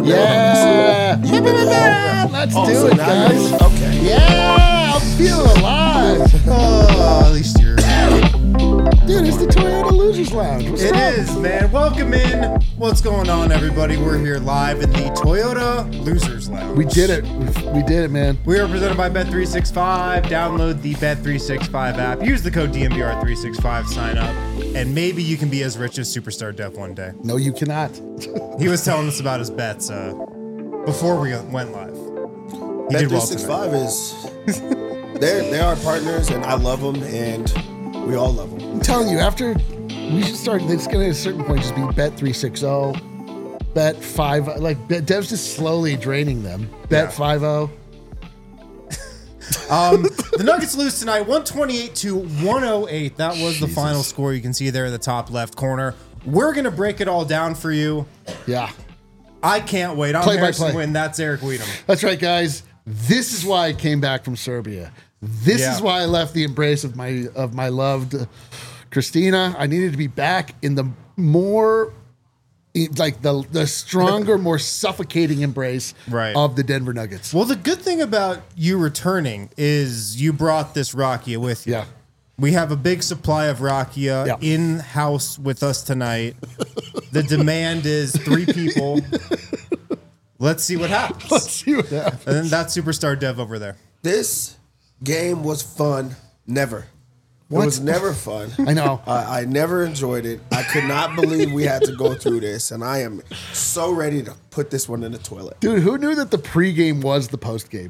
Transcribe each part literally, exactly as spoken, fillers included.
Yeah. Yeah. Let's Oh, do so it, now guys. you're- Okay. Yeah. I'm feeling alive. Oh, at least you're. Dude, it's the Toyota Losers Lounge. What's It up? is, man. Welcome in. What's going on, everybody? We're here live in the Toyota Losers Lounge. We did it. We, we did it, man. We are presented by Bet three sixty-five. Download the Bet three sixty-five app. Use the code D M V R three sixty-five. Sign up, and maybe you can be as rich as Superstar Dev one day. No, you cannot. He was telling us about his bets uh, before we went live. He Bet did three well tonight. sixty-five is they're they are partners, and I love them, and we all love them. I'm telling you, after we should start, it's going to at a certain point just be Bet three sixty, Bet five. Like, Bet- Dev's just slowly draining them. Bet Yeah. five oh. Um, the Nuggets lose tonight, one twenty-eight to one oh eight. That was the final score. You can see there in the top left corner. We're going to break it all down for you. Yeah. I can't wait. I'm Play by Harrison play. Wynn. That's Eric Weedham. That's right, guys. This is why I came back from Serbia. This Yeah. is why I left the embrace of my of my loved Christina. I needed to be back in the more, like the the stronger, more suffocating embrace Right. of the Denver Nuggets. Well, the good thing about you returning is you brought this Rakia with you. Yeah. We have a big supply of Rakia Yeah. in house with us tonight. The demand is three people. Let's see what happens. Let's see what happens. And then that's Superstar Dev over there. This game was fun. Never. What? It was never fun. I know. I, I never enjoyed it. I could not believe we had to go through this, and I am so ready to put this one in the toilet. Dude, who knew that the pregame was the postgame?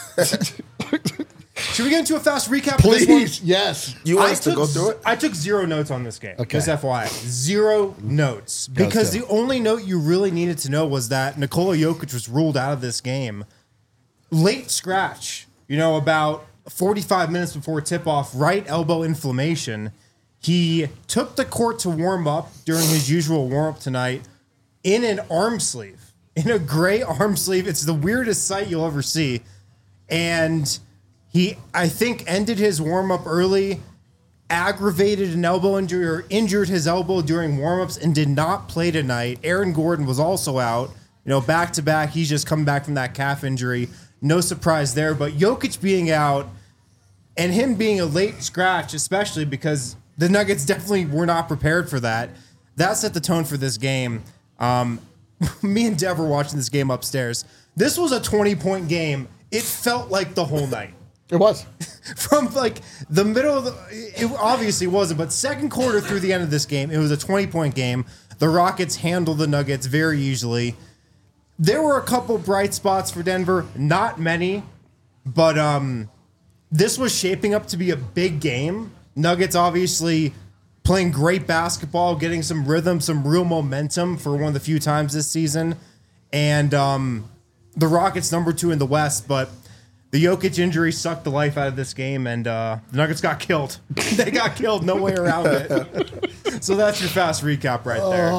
Should we get into a fast recap of this one? Please, yes. You want I us to took go through z- it? I took zero notes on this game. Okay. Just F Y I. Zero notes. Because go. the only note you really needed to know was that Nikola Jokic was ruled out of this game. Late scratch, you know, about forty-five minutes before tip-off, right elbow inflammation. He took the court to warm up during his usual warm-up tonight in an arm sleeve. In a gray arm sleeve. It's the weirdest sight you'll ever see. And he, I think, ended his warm-up early, aggravated an elbow injury or injured his elbow during warm-ups and did not play tonight. Aaron Gordon was also out. You know, back-to-back, he's just come back from that calf injury. No surprise there. But Jokic being out and him being a late scratch, especially because the Nuggets definitely were not prepared for that, that set the tone for this game. Um, me and Dev were watching this game upstairs. This was a twenty-point game. It felt like the whole night. It was. From like the middle of the, it obviously wasn't, but second quarter through the end of this game, it was a twenty-point game. The Rockets handled the Nuggets very easily. There were a couple bright spots for Denver, not many, but um, this was shaping up to be a big game. Nuggets obviously playing great basketball, getting some rhythm, some real momentum for one of the few times this season. And um, the Rockets number two in the West, but the Jokic injury sucked the life out of this game, and uh, the Nuggets got killed. They got killed, no way around it. So that's your fast recap right there.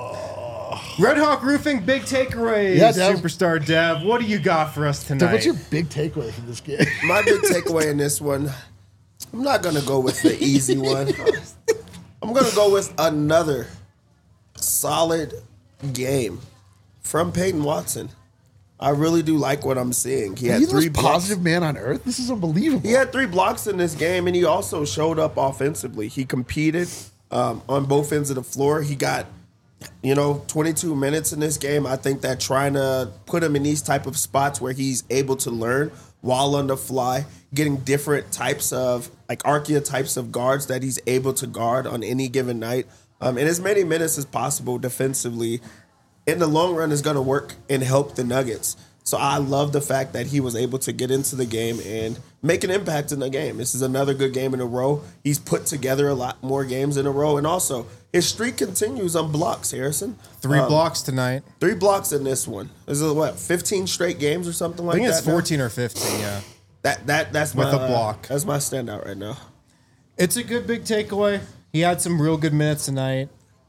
Red Hawk Roofing, big takeaways. Yeah, Dev. Superstar Dev, what do you got for us tonight? Dude, what's your big takeaway from this game? My big takeaway in this one, I'm not going to go with the easy one. I'm going to go with another solid game from Peyton Watson. I really do like what I'm seeing. He Are had you the three most blocks. positive man on earth? This is unbelievable. He had three blocks in this game, and he also showed up offensively. He competed um, on both ends of the floor. He got, you know, twenty-two minutes in this game. I think that trying to put him in these type of spots where he's able to learn while on the fly, getting different types of, like archetypes of guards that he's able to guard on any given night, um, and as many minutes as possible defensively, in the long run is going to work and help the Nuggets. So I love the fact that he was able to get into the game and make an impact in the game. This is another good game in a row. He's put together a lot more games in a row. And also, his streak continues on blocks, Harrison. Three Um, blocks tonight. Three blocks in this one. Is it, what, fifteen straight games or something I like think that? it's now? fourteen or fifteen, yeah. That, that, that's With my, a block. Uh, that's my standout right now. It's a good big takeaway. He had some real good minutes tonight.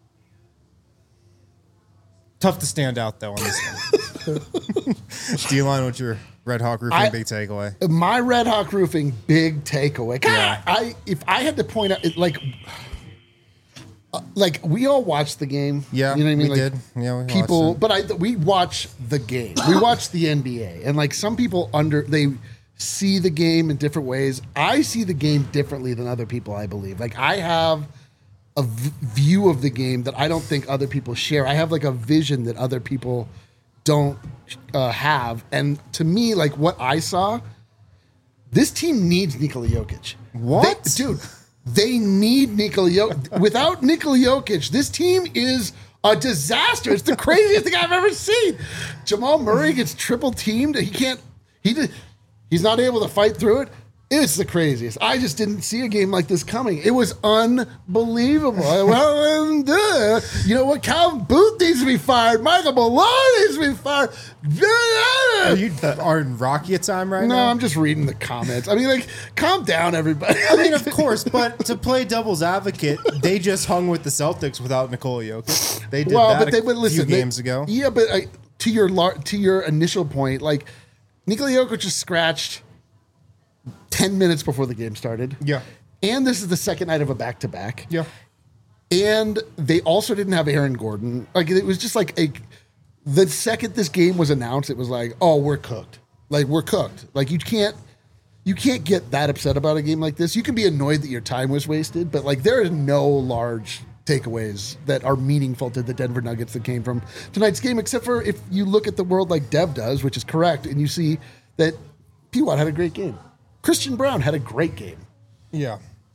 Tough to stand out, though, on this one. D-Line, what's your Red Hawk Roofing I- big takeaway? My Red Hawk Roofing big takeaway. God, Yeah. I if I had to point out, it, like, like we all watched the game. Yeah, you know what I mean. we like, did. Yeah, we people, watched it. but I we watch the game. We watch the N B A, and like some people under they see the game in different ways. I see the game differently than other people. I believe. Like I have a v- view of the game that I don't think other people share. I have like a vision that other people don't uh, have, and to me, like what I saw, this team needs Nikola Jokic. What, They- dude? They need Nikola Jokic. Without Nikola Jokic, this team is a disaster. It's the craziest thing I've ever seen. Jamal Murray gets triple teamed. He can't. He did, he's not able to fight through it. It's the craziest. I just didn't see a game like this coming. It was unbelievable. Well, and, uh, you know what? Calvin Booth needs to be fired. Michael Malone needs to be fired. Are you are in Rocky time right No, now? I'm just reading the comments. I mean, like, calm down, everybody. I mean, of course, but to play devil's advocate, they just hung with the Celtics without Nikola Jokic. They did well, that but they a would listen few they- games ago. Yeah, but I, to your lar- to your initial point, like Nikola Jokic just scratched ten minutes before the game started. Yeah. And this is the second night of a back to back. Yeah. And they also didn't have Aaron Gordon. Like it was just like a the second this game was announced, it was like, oh, we're cooked. Like we're cooked. Like you can't you can't get that upset about a game like this. You can be annoyed that your time was wasted, but like there is no large takeaways that are meaningful to the Denver Nuggets that came from tonight's game, except for if you look at the world like Dev does, which is correct, and you see that P. Watt had a great game. Christian Brown had a great game. Yeah.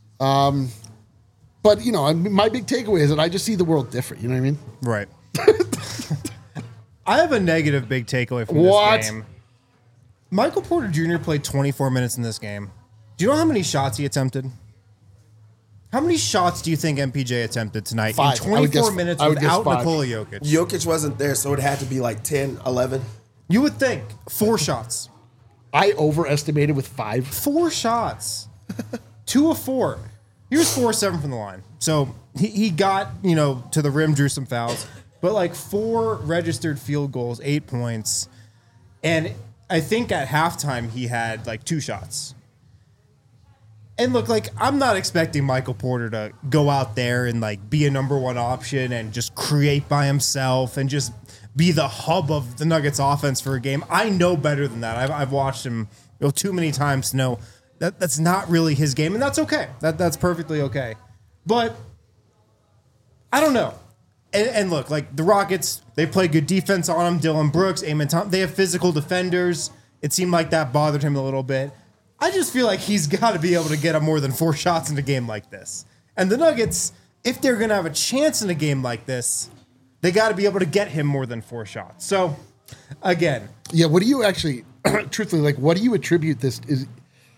But, you know, I mean, my big takeaway is that I just see the world different. You know what I mean? Right. I have a negative big takeaway from What? this game. Michael Porter Junior played twenty-four minutes in this game. Do you know how many shots he attempted? How many shots do you think M P J attempted tonight Five. in I would twenty-four guess- minutes I would guess without five. Nikola Jokic? Jokic wasn't there, so it had to be like ten, eleven. You would think four shots. I overestimated with five. Four shots. Two of four. He was four of seven from the line. So he, he got, you know, to the rim, drew some fouls. But like four registered field goals, eight points. And I think at halftime he had like two shots. And look, like, I'm not expecting Michael Porter to go out there and like be a number one option and just create by himself and just be the hub of the Nuggets offense for a game. I know better than that. I've, I've watched him you know, too many times to know that that's not really his game, and that's okay. That that's perfectly okay. But I don't know. And, and look, like the Rockets, they play good defense on him. Dylan Brooks, Amon Thompson, they have physical defenders. It seemed like that bothered him a little bit. I just feel like he's got to be able to get up more than four shots in a game like this. And the Nuggets, if they're going to have a chance in a game like this, they got to be able to get him more than four shots. So, again, Yeah, what do you actually, truthfully, like, what do you attribute this? Is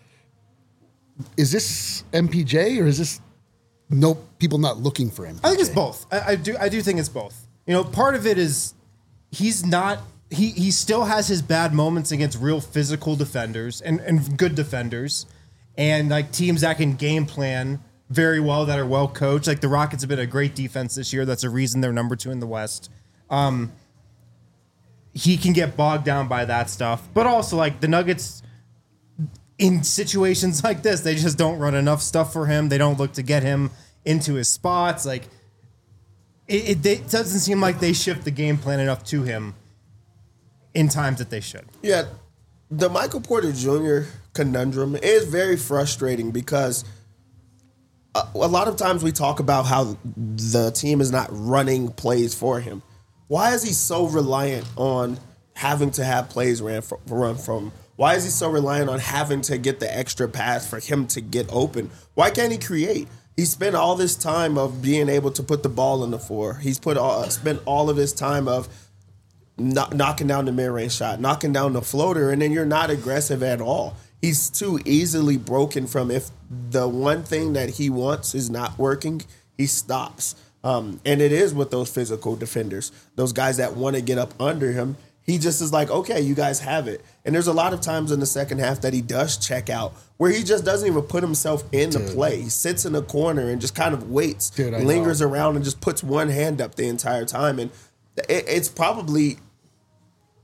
is this M P J or is this no people not looking for M P J? I think it's both. I, I do. I do think it's both. You know, part of it is he's not. He he still has his bad moments against real physical defenders and, and good defenders, and like teams that can game plan very well, that are well coached. Like the Rockets have been a great defense this year. That's a reason they're number two in the West. Um, he can get bogged down by that stuff, but also like the Nuggets. In situations like this, they just don't run enough stuff for him. They don't look to get him into his spots. Like it, it, it doesn't seem like they shift the game plan enough to him in times that they should. Yeah, the Michael Porter Junior conundrum is very frustrating because a, a lot of times we talk about how the team is not running plays for him. Why is he so reliant on having to have plays ran from, run from? Why is he so reliant on having to get the extra pass for him to get open? Why can't he create? He spent all this time of being able to put the ball in the floor. He's put all, spent all of this time of Knock, knocking down the mid-range shot, knocking down the floater, and then you're not aggressive at all. He's too easily broken from if the one thing that he wants is not working, he stops. Um, and it is with those physical defenders, those guys that want to get up under him. He just is like, okay, you guys have it. And there's a lot of times in the second half that he does check out where he just doesn't even put himself in the play. He sits in the corner and just kind of waits, Dude, I lingers know. around and just puts one hand up the entire time. And it, it's probably...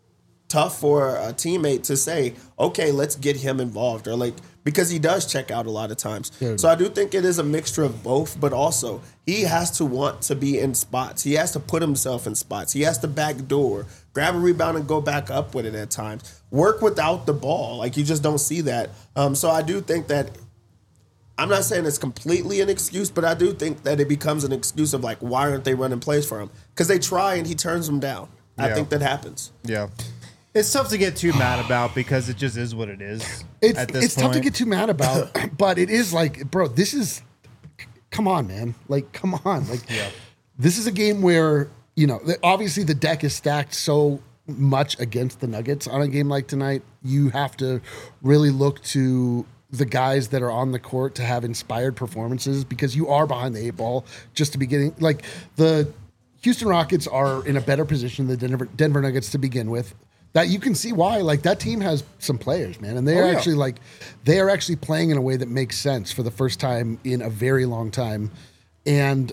tough for a teammate to say, okay, let's get him involved, or like, because he does check out a lot of times. Yeah. So I do think it is a mixture of both, but also he has to want to be in spots. He has to put himself in spots. He has to backdoor, grab a rebound and go back up with it at times. Work without the ball. Like, you just don't see that. Um, so I do think that, I'm not saying it's completely an excuse, but I do think that it becomes an excuse of like, why aren't they running plays for him? Because they try and he turns them down. I Yeah. think that happens. Yeah. It's tough to get too mad about because it just is what it is. It's at this it's point. tough to get too mad about, but it is like, bro, this is, come on, man. Like, come on. Like, Yeah. this is a game where, you know, the- obviously the deck is stacked so much against the Nuggets on a game like tonight. You have to really look to the guys that are on the court to have inspired performances, because you are behind the eight ball just to be getting, like, the Houston Rockets are in a better position than the Denver, Denver Nuggets to begin with. That you can see why, like, that team has some players, man, and they Oh, are yeah. actually like they are actually playing in a way that makes sense for the first time in a very long time, and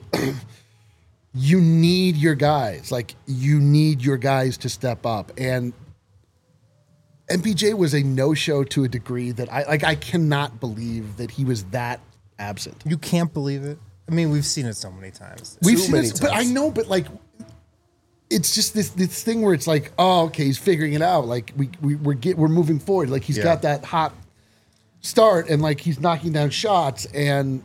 you need your guys, like you need your guys to step up. And M P J was a no-show to a degree that I like. I cannot believe that he was that absent. You can't believe it. I mean, we've seen it so many times. We've Too seen many this, but I times. know, but like, it's just this this thing where it's like, oh, okay, he's figuring it out. Like we we we're get we're moving forward. Like he's Yeah. got that hot start, and like he's knocking down shots, and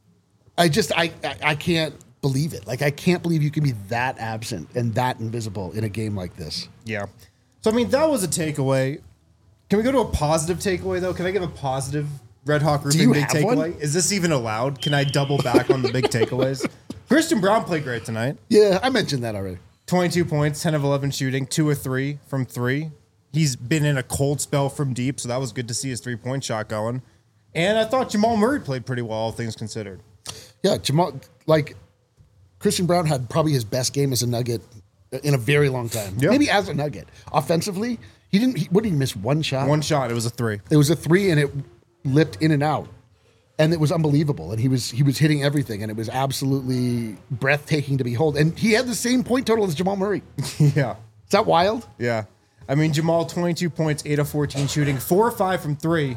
I just I I, I can't believe it. Like I can't believe you can be that absent and that invisible in a game like this. Yeah. So, I mean, that was a takeaway. Can we go to a positive takeaway, though? Can I give a positive Red Hawk Roofing you big have one? takeaway? Is this even allowed? Can I double back on the big takeaways? Christian Brown played great tonight. Yeah, I mentioned that already. twenty-two points, ten of eleven shooting, two or three from three. He's been in a cold spell from deep, so that was good to see his three-point shot going. And I thought Jamal Murray played pretty well, all things considered. Yeah, Jamal, like Christian Brown had probably his best game as a Nugget in a very long time. Yeah. Maybe as a Nugget. Offensively, he didn't. He, what did he miss? One shot. One shot, it was a three. It was a three, and it lipped in and out, and it was unbelievable. And he was he was hitting everything, and it was absolutely breathtaking to behold. And he had the same point total as Jamal Murray. Is Yeah. that wild? Yeah. I mean, Jamal, twenty-two points, eight of fourteen shooting, four or five from three,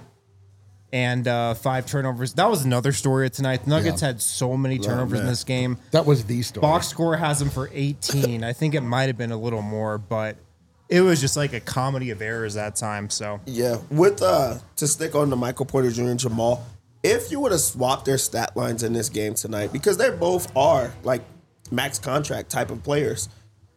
and uh, five turnovers. That was another story of tonight. The Nuggets Yeah. had so many turnovers in man. this game. That was the story. Box score has him for eighteen. I think it might have been a little more, but it was just like a comedy of errors that time. So, Yeah, with uh to stick on the Michael Porter Junior and Jamal, if you would have swapped their stat lines in this game tonight, because they both are like max contract type of players,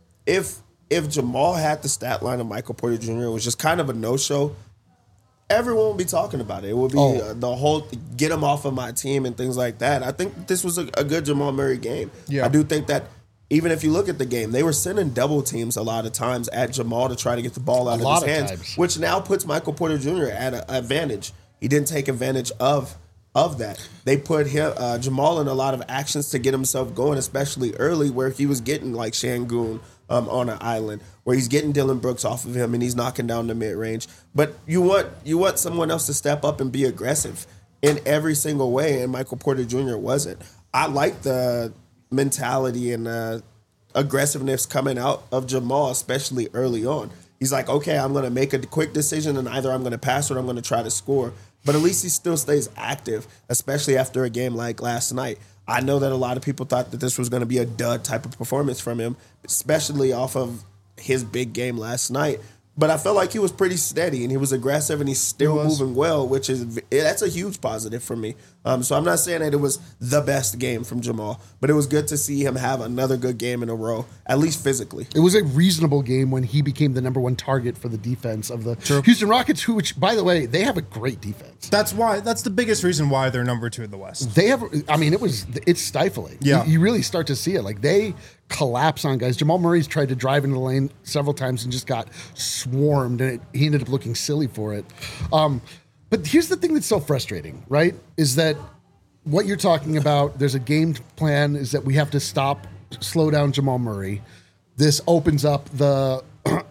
if if Jamal had the stat line of Michael Porter Junior, it was just kind of a no show. Everyone would be talking about it. It would be Oh. uh, the whole get him off of my team and things like that. I think this was a, a good Jamal Murray game. Yeah. I do think that even if you look at the game, they were sending double teams a lot of times at Jamal to try to get the ball out A of lot his of hands, times. which now puts Michael Porter Junior at an advantage. He didn't take advantage of of that. They put him uh, Jamal in a lot of actions to get himself going, especially early, where he was getting like Şengün um, on an island, where he's getting Dylan Brooks off of him and he's knocking down the mid range. But you want you want someone else to step up and be aggressive in every single way, and Michael Porter Junior wasn't. I like the mentality and uh, aggressiveness coming out of Jamal, especially early on. He's like, okay, I'm going to make a quick decision, and either I'm going to pass or I'm going to try to score. But at least he still stays active, especially after a game like last night. I know that a lot of people thought that this was going to be a dud type of performance from him, especially off of his big game last night. But I felt like he was pretty steady and he was aggressive and he's still He was. moving well, which is that's a huge positive for me. Um, so I'm not saying that it was the best game from Jamal, but it was good to see him have another good game in a row, at least physically. It was a reasonable game when he became the number one target for the defense of the Houston Rockets, who, which, by the way, they have a great defense. that's why, that's the biggest reason why they're number two in the West. They have, I mean, it was, it's stifling. Yeah. You, you really start to see it. Like they collapse on guys. Jamal Murray's tried to drive into the lane several times and just got swarmed, and it, he ended up looking silly for it. Um, but here's the thing that's so frustrating, right? Is that what you're talking about, there's a game plan, is that we have to stop, slow down Jamal Murray. This opens up the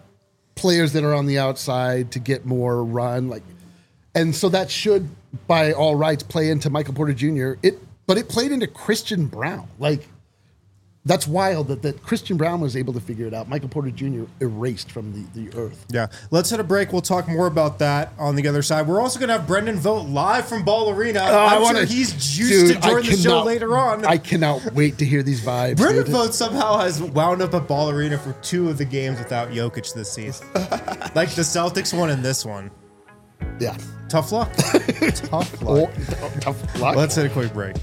players that are on the outside to get more run. Like, and so that should, by all rights, play into Michael Porter Junior It, but it played into Christian Brown. Like, That's wild that, that Christian Brown was able to figure it out. Michael Porter Junior erased from the, the earth. Yeah. Let's hit a break. We'll talk more about that on the other side. We're also going to have Brendan Vogt live from Ball Arena. Oh, I'm I wanna, sure he's juiced dude, to join I the show cannot- later on. I cannot wait to hear these vibes. Brendan dude. Vogt somehow has wound up at Ball Arena for two of the games without Jokic this season. Like the Celtics one and this one. Yeah. Tough luck. Tough luck. Oh, tough luck. Let's hit a quick break.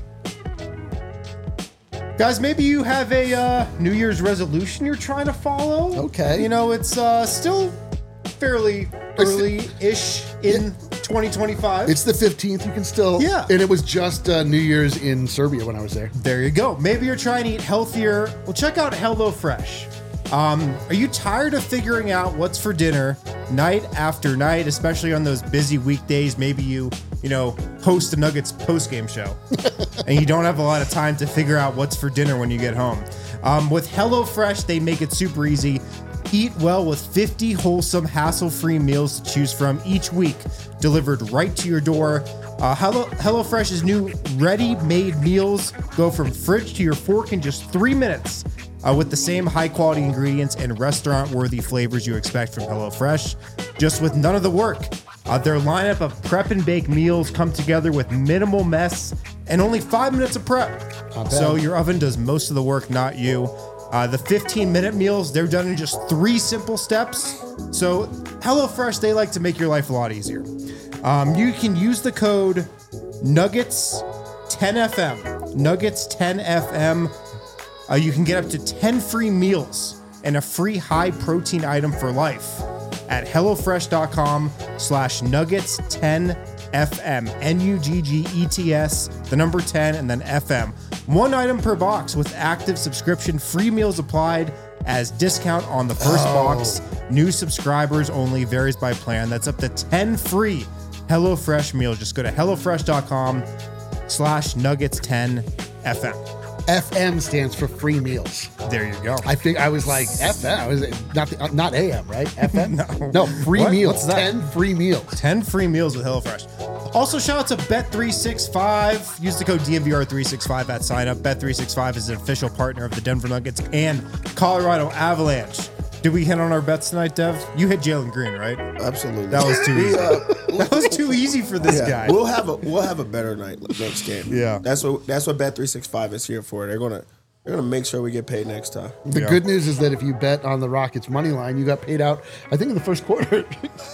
Guys, maybe you have a uh, New Year's resolution you're trying to follow. Okay. You know, it's uh, still fairly early-ish in twenty twenty-five. It's the fifteenth. You can still. Yeah. And it was just uh, New Year's in Serbia when I was there. There you go. Maybe you're trying to eat healthier. Well, check out HelloFresh. Um, are you tired of figuring out what's for dinner night after night, especially on those busy weekdays? Maybe you, you know, host the Nuggets post-game show and you don't have a lot of time to figure out what's for dinner when you get home. Um, with HelloFresh, they make it super easy. Eat well with fifty wholesome, hassle-free meals to choose from each week, delivered right to your door. Uh, Hello HelloFresh's new ready-made meals go from fridge to your fork in just three minutes. Uh, with the same high-quality ingredients and restaurant-worthy flavors you expect from HelloFresh, just with none of the work. Uh, their lineup of prep and bake meals come together with minimal mess and only five minutes of prep. Not bad. So your oven does most of the work, not you. Uh, the fifteen-minute meals, they're done in just three simple steps. So HelloFresh, they like to make your life a lot easier. Um, you can use the code Nuggets ten F M. Nuggets ten F M. Uh, you can get up to ten free meals and a free high-protein item for life at HelloFresh.com slash Nuggets 10FM. N U G G E T S, the number ten, and then F M. One item per box with active subscription. Free meals applied as discount on the first Oh. box. New subscribers only. Varies by plan. That's up to ten free HelloFresh meals. Just go to HelloFresh.com slash Nuggets 10 FM. F M stands for free meals. There you go. I think I was like F M. I was not the, not A M, right? F M. No. no, free What? meals. What's that? Ten free meals. ten free meals with HelloFresh. Also, shout out to Bet three sixty-five. Use the code D M V R three sixty-five at sign up. Bet three sixty-five is an official partner of the Denver Nuggets and Colorado Avalanche. Did we hit on our bets tonight, Dev? You hit Jalen Green, right? Absolutely. That was too We, easy. uh, That was too easy for this yeah, guy. We'll have a we'll have a better night next game. Yeah. That's what that's what Bet three sixty-five is here for. They're gonna they're gonna make sure we get paid next time. The Yeah. good news is that if you bet on the Rockets money line, you got paid out, I think, in the first quarter.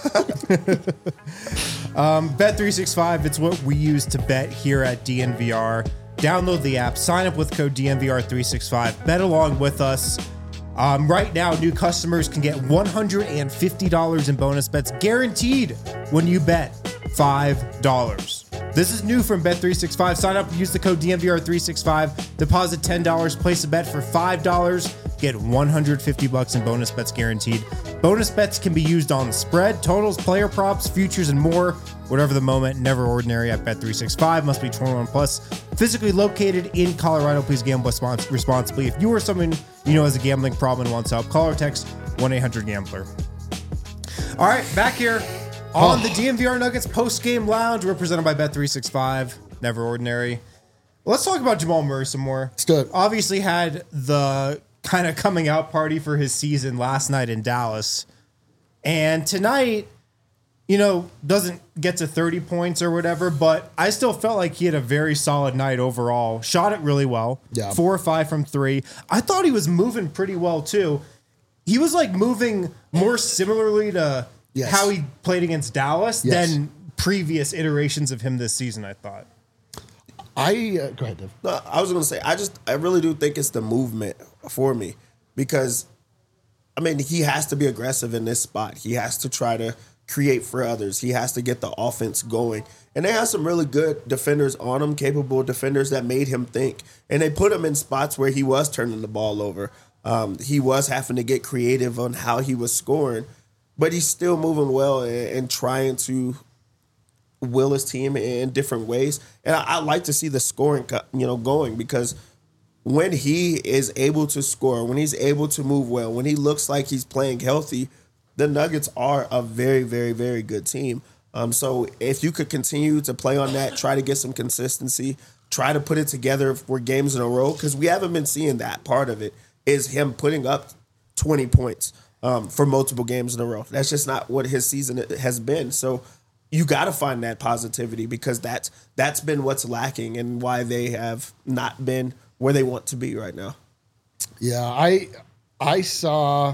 Bet three sixty-five, it's what we use to bet here at D N V R. Download the app, sign up with code D N V R three sixty-five, bet along with us. Um, right now, new customers can get one hundred fifty dollars in bonus bets guaranteed when you bet five dollars. This is new from Bet three sixty-five. Sign up, use the code D N V R three sixty-five, deposit ten dollars, place a bet for five dollars, get one hundred fifty bucks in bonus bets guaranteed. Bonus bets can be used on spread, totals, player props, futures, and more. Whatever the moment, never ordinary at Bet three sixty-five. Must be twenty-one plus. Physically located in Colorado. Please gamble respons- responsibly. If you or someone you know has a gambling problem and wants help, call or text one eight hundred gambler. All right, back here on Oh. the D N V R Nuggets post-game lounge. We're presented by Bet three sixty-five. Never ordinary. Let's talk about Jamal Murray some more. Let's do it. Obviously had the kind of coming out party for his season last night in Dallas. And tonight, you know, doesn't get to thirty points or whatever, but I still felt like he had a very solid night overall. Shot it really well. Yeah. Four or five from three. I thought he was moving pretty well too. He was like moving more similarly to Yes. how he played against Dallas Yes. than previous iterations of him this season, I thought. I uh, go ahead, Dev. No, I was gonna say I just I really do think it's the movement for me because I mean he has to be aggressive in this spot. He has to try to create for others. He has to get the offense going. And they have some really good defenders on him, capable defenders that made him think. And they put him in spots where he was turning the ball over. Um, he was having to get creative on how he was scoring, but he's still moving well and, and trying to will his team in different ways. And I, I like to see the scoring, co- you know, going because when he is able to score, when he's able to move well, when he looks like he's playing healthy, the Nuggets are a very, very, very good team. Um, so if you could continue to play on that, try to get some consistency, try to put it together for games in a row, because we haven't been seeing that part of it, is him putting up twenty points um, for multiple games in a row. That's just not what his season has been. So you got to find that positivity, because that's that's been what's lacking and why they have not been where they want to be right now. Yeah, I I saw.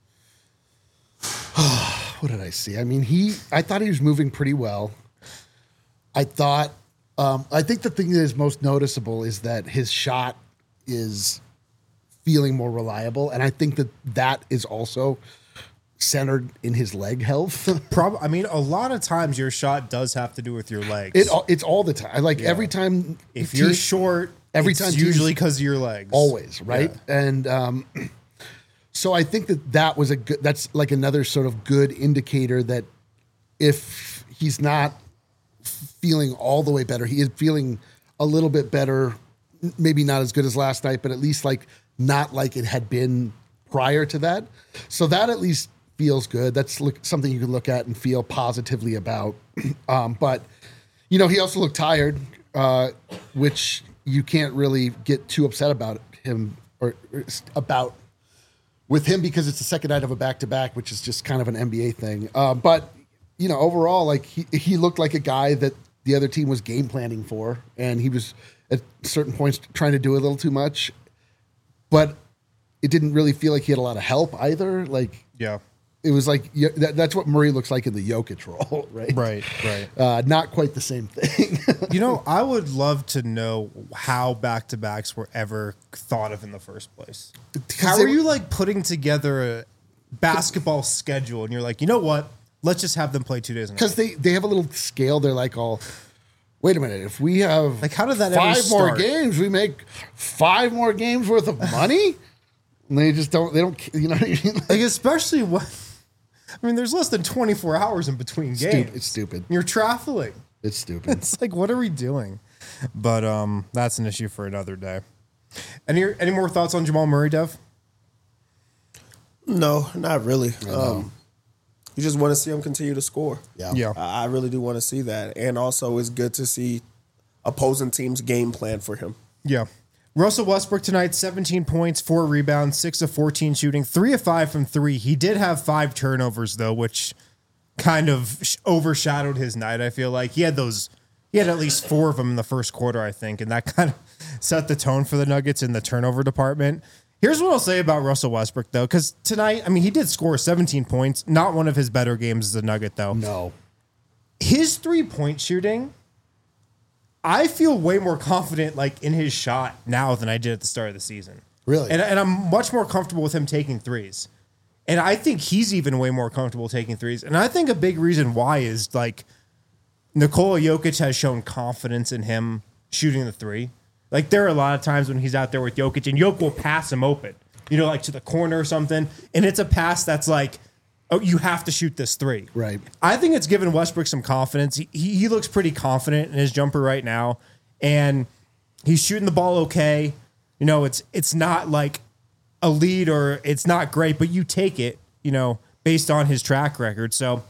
What did I see? I mean, he. I thought he was moving pretty well. I thought. Um, I think the thing that is most noticeable is that his shot is feeling more reliable, and I think that that is also centered in his leg health. Prob- I mean, a lot of times your shot does have to do with your legs. It it's all the time. Like every time, if te- you're short, every it's time usually teams- because of your legs. always right, Yeah. and um, so I think that that was a good. That's like another sort of good indicator that if he's not feeling all the way better, he is feeling a little bit better. Maybe not as good as last night, but at least like not like it had been prior to that. So that at least feels good. That's look, something you can look at and feel positively about. Um, but, you know, he also looked tired, uh, which you can't really get too upset about him or, or about with him, because it's the second night of a back-to-back, which is just kind of an N B A thing. Uh, but, you know, overall, like he, he looked like a guy that the other team was game planning for, and he was at certain points trying to do a little too much, but it didn't really feel like he had a lot of help either. Like, Yeah. it was like yeah, that, that's what Murray looks like in the Jokic role, right? Right, right. Uh, not quite the same thing. You know, I would love to know how back-to-backs were ever thought of in the first place. How they are were- you like putting together a basketball schedule and you're like, you know what? Let's just have them play two days in a row. Because they, they have a little scale. They're like, all, wait a minute, if we have Like, how did that ever five more start? games, we make five more games worth of money? And they just don't, they don't, you know what I mean? Like, Like, especially when, I mean, there's less than twenty-four hours in between games. stupid, it's stupid. You're traveling. It's stupid. It's like, what are we doing? But um, that's an issue for another day. Any any more thoughts on Jamal Murray, Dev? No, not really. Um, you just want to see him continue to score. Yeah. Yeah. I I really do want to see that. And also, it's good to see opposing teams' game plan for him. Yeah. Russell Westbrook tonight, seventeen points, four rebounds, six of fourteen shooting, three of five from three. He did have five turnovers, though, which kind of sh- overshadowed his night, I feel like. He had those, he had at least four of them in the first quarter, I think, and that kind of set the tone for the Nuggets in the turnover department. Here's what I'll say about Russell Westbrook, though, because tonight, I mean, he did score seventeen points. Not one of his better games as a Nugget, though. No. His three-point shooting, I feel way more confident like in his shot now than I did at the start of the season. Really? And, and I'm much more comfortable with him taking threes. And I think he's even way more comfortable taking threes. And I think a big reason why is like Nikola Jokic has shown confidence in him shooting the three. Like there are a lot of times when he's out there with Jokic and Jokic will pass him open, you know, like to the corner or something. And it's a pass that's like, oh, you have to shoot this three. Right. I think it's given Westbrook some confidence. He, he he looks pretty confident in his jumper right now, and he's shooting the ball okay. You know, it's it's not like a lead or it's not great, but you take it, you know, based on his track record. So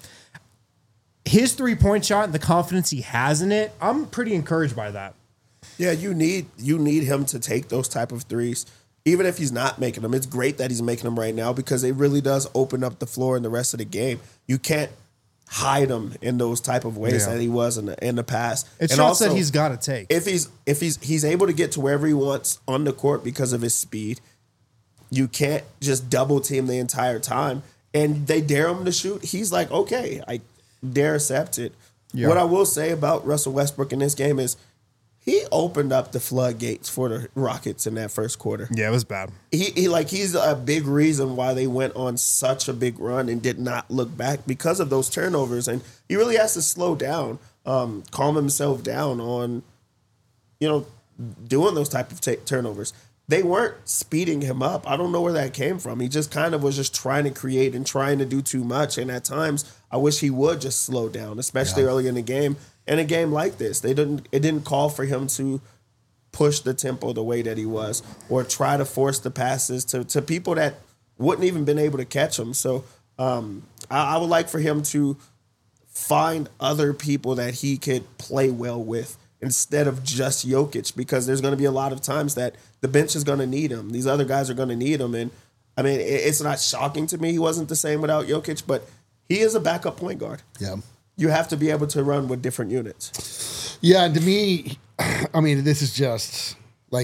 his three-point shot and the confidence he has in it, I'm pretty encouraged by that. Yeah, you need you need him to take those type of threes. Even if he's not making them, it's great that he's making them right now because it really does open up the floor in the rest of the game. You can't hide him in those type of ways Yeah. that he was in the in the past. It's And shots also, that he's got to take. if he's if he's he's able to get to wherever he wants on the court because of his speed, you can't just double team the entire time. And they dare him to shoot. He's like, okay, I dare accept it. Yeah. What I will say about Russell Westbrook in this game is he opened up the floodgates for the Rockets in that first quarter. Yeah, it was bad. He, he like he's a big reason why they went on such a big run and did not look back because of those turnovers. And he really has to slow down, um, calm himself down on, you know, doing those type of t- turnovers. They weren't speeding him up. I don't know where that came from. He just kind of was just trying to create and trying to do too much. And at times, I wish he would just slow down, especially Yeah. early in the game. In a game like this, they didn't. It didn't call for him to push the tempo the way that he was, or try to force the passes to, to people that wouldn't even been able to catch him. So um, I, I would like for him to find other people that he could play well with instead of just Jokic, because there's going to be a lot of times that the bench is going to need him. These other guys are going to need him. And I mean, it's not shocking to me he wasn't the same without Jokic, but he is a backup point guard. Yeah. You have to be able to run with different units. Yeah, and to me, I mean, this is just like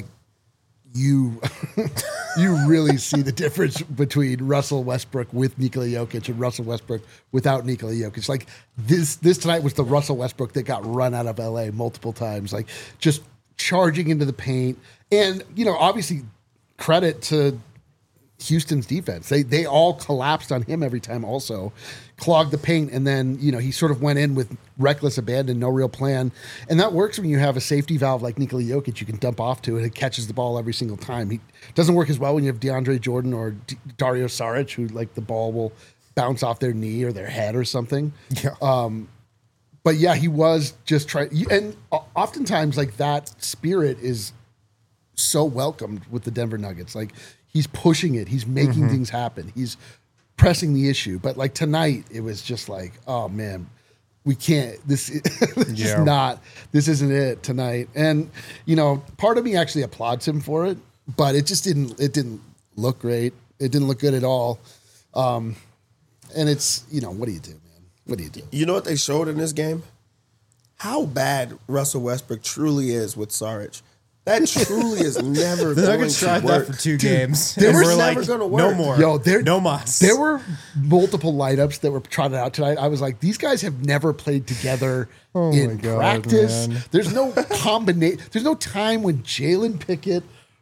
you you really see the difference between Russell Westbrook with Nikola Jokic and Russell Westbrook without Nikola Jokic. Like this this tonight was the Russell Westbrook that got run out of L A multiple times, like just charging into the paint. And, you know, obviously credit to Houston's defense. They they all collapsed on him every time also, clogged the paint, and then, you know, he sort of went in with reckless abandon, no real plan. And that works when you have a safety valve like Nikola Jokic you can dump off to, and it catches the ball every single time. He doesn't work as well when you have DeAndre Jordan or D- Dario Saric, who, like, the ball will bounce off their knee or their head or something. Yeah. Um, but yeah, he was just trying, and oftentimes, like, that spirit is so welcomed with the Denver Nuggets. Like, he's pushing it. He's making mm-hmm. things happen. He's pressing the issue. But like tonight, it was just like, oh man, we can't. This is just yeah. not. This isn't it tonight. And you know, part of me actually applauds him for it, but it just didn't. It didn't look great. It didn't look good at all. Um, and it's, you know, what do you do, man? What do you do? You know what they showed in this game? How bad Russell Westbrook truly is with Saric. That truly is never the going Nuggets to tried work. that for two Dude, games. They were we're never like, going to work. no more. Yo, there, no mas. There were multiple lineups that were trotted out tonight. I was like, these guys have never played together oh in God, practice. Man. There's no combination. There's no time when Jalen Pickett,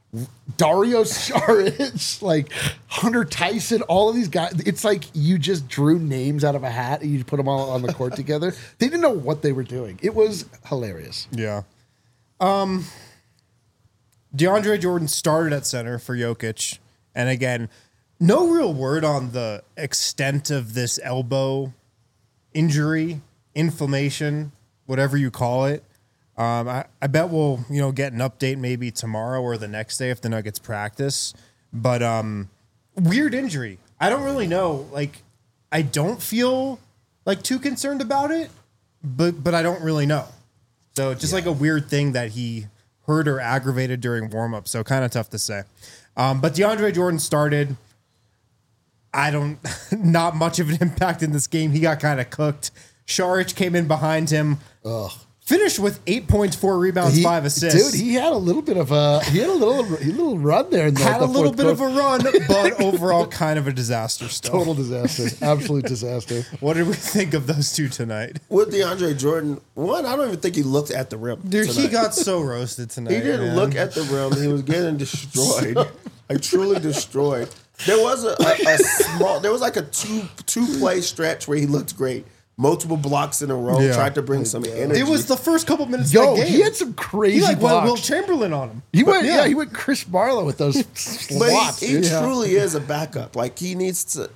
Dario Saric, like Hunter Tyson, all of these guys. It's like you just drew names out of a hat and you put them all on the court together. They didn't know what they were doing. It was hilarious. Yeah. Um. DeAndre Jordan started at center for Jokic. And again, no real word on the extent of this elbow injury, inflammation, whatever you call it. Um, I, I bet we'll, you know, get an update maybe tomorrow or the next day if the Nuggets practice. But um, weird injury. I don't really know. Like, I don't feel like too concerned about it, but but I don't really know. So just yeah. like a weird thing that he hurt or aggravated during warm-up, so kind of tough to say. Um, but DeAndre Jordan started. I don't, not much of an impact in this game. He got kind of cooked. Saric came in behind him. Ugh. Finished with eight points, four rebounds, he, five assists. Dude, he had a little bit of a he had a little a little run there. In the, had the a little bit quarter. of a run, but overall kind of a disaster still. Total disaster. Absolute disaster. What did we think of those two tonight? With DeAndre Jordan, one, I don't even think he looked at the rim. Dude, tonight. he got so roasted tonight. He didn't man. look at the rim. He was getting destroyed. Like, truly destroyed. There was a, a, a small, there was like a two two play stretch where he looked great. Multiple blocks in a row, Yeah. tried to bring some energy. It was the first couple minutes Yo, of the game. he had some crazy He like blocks. went Will Chamberlain on him. He But went, yeah. he went Chris Marlowe with those But slots. he, he dude. truly is a backup. Like, he needs to.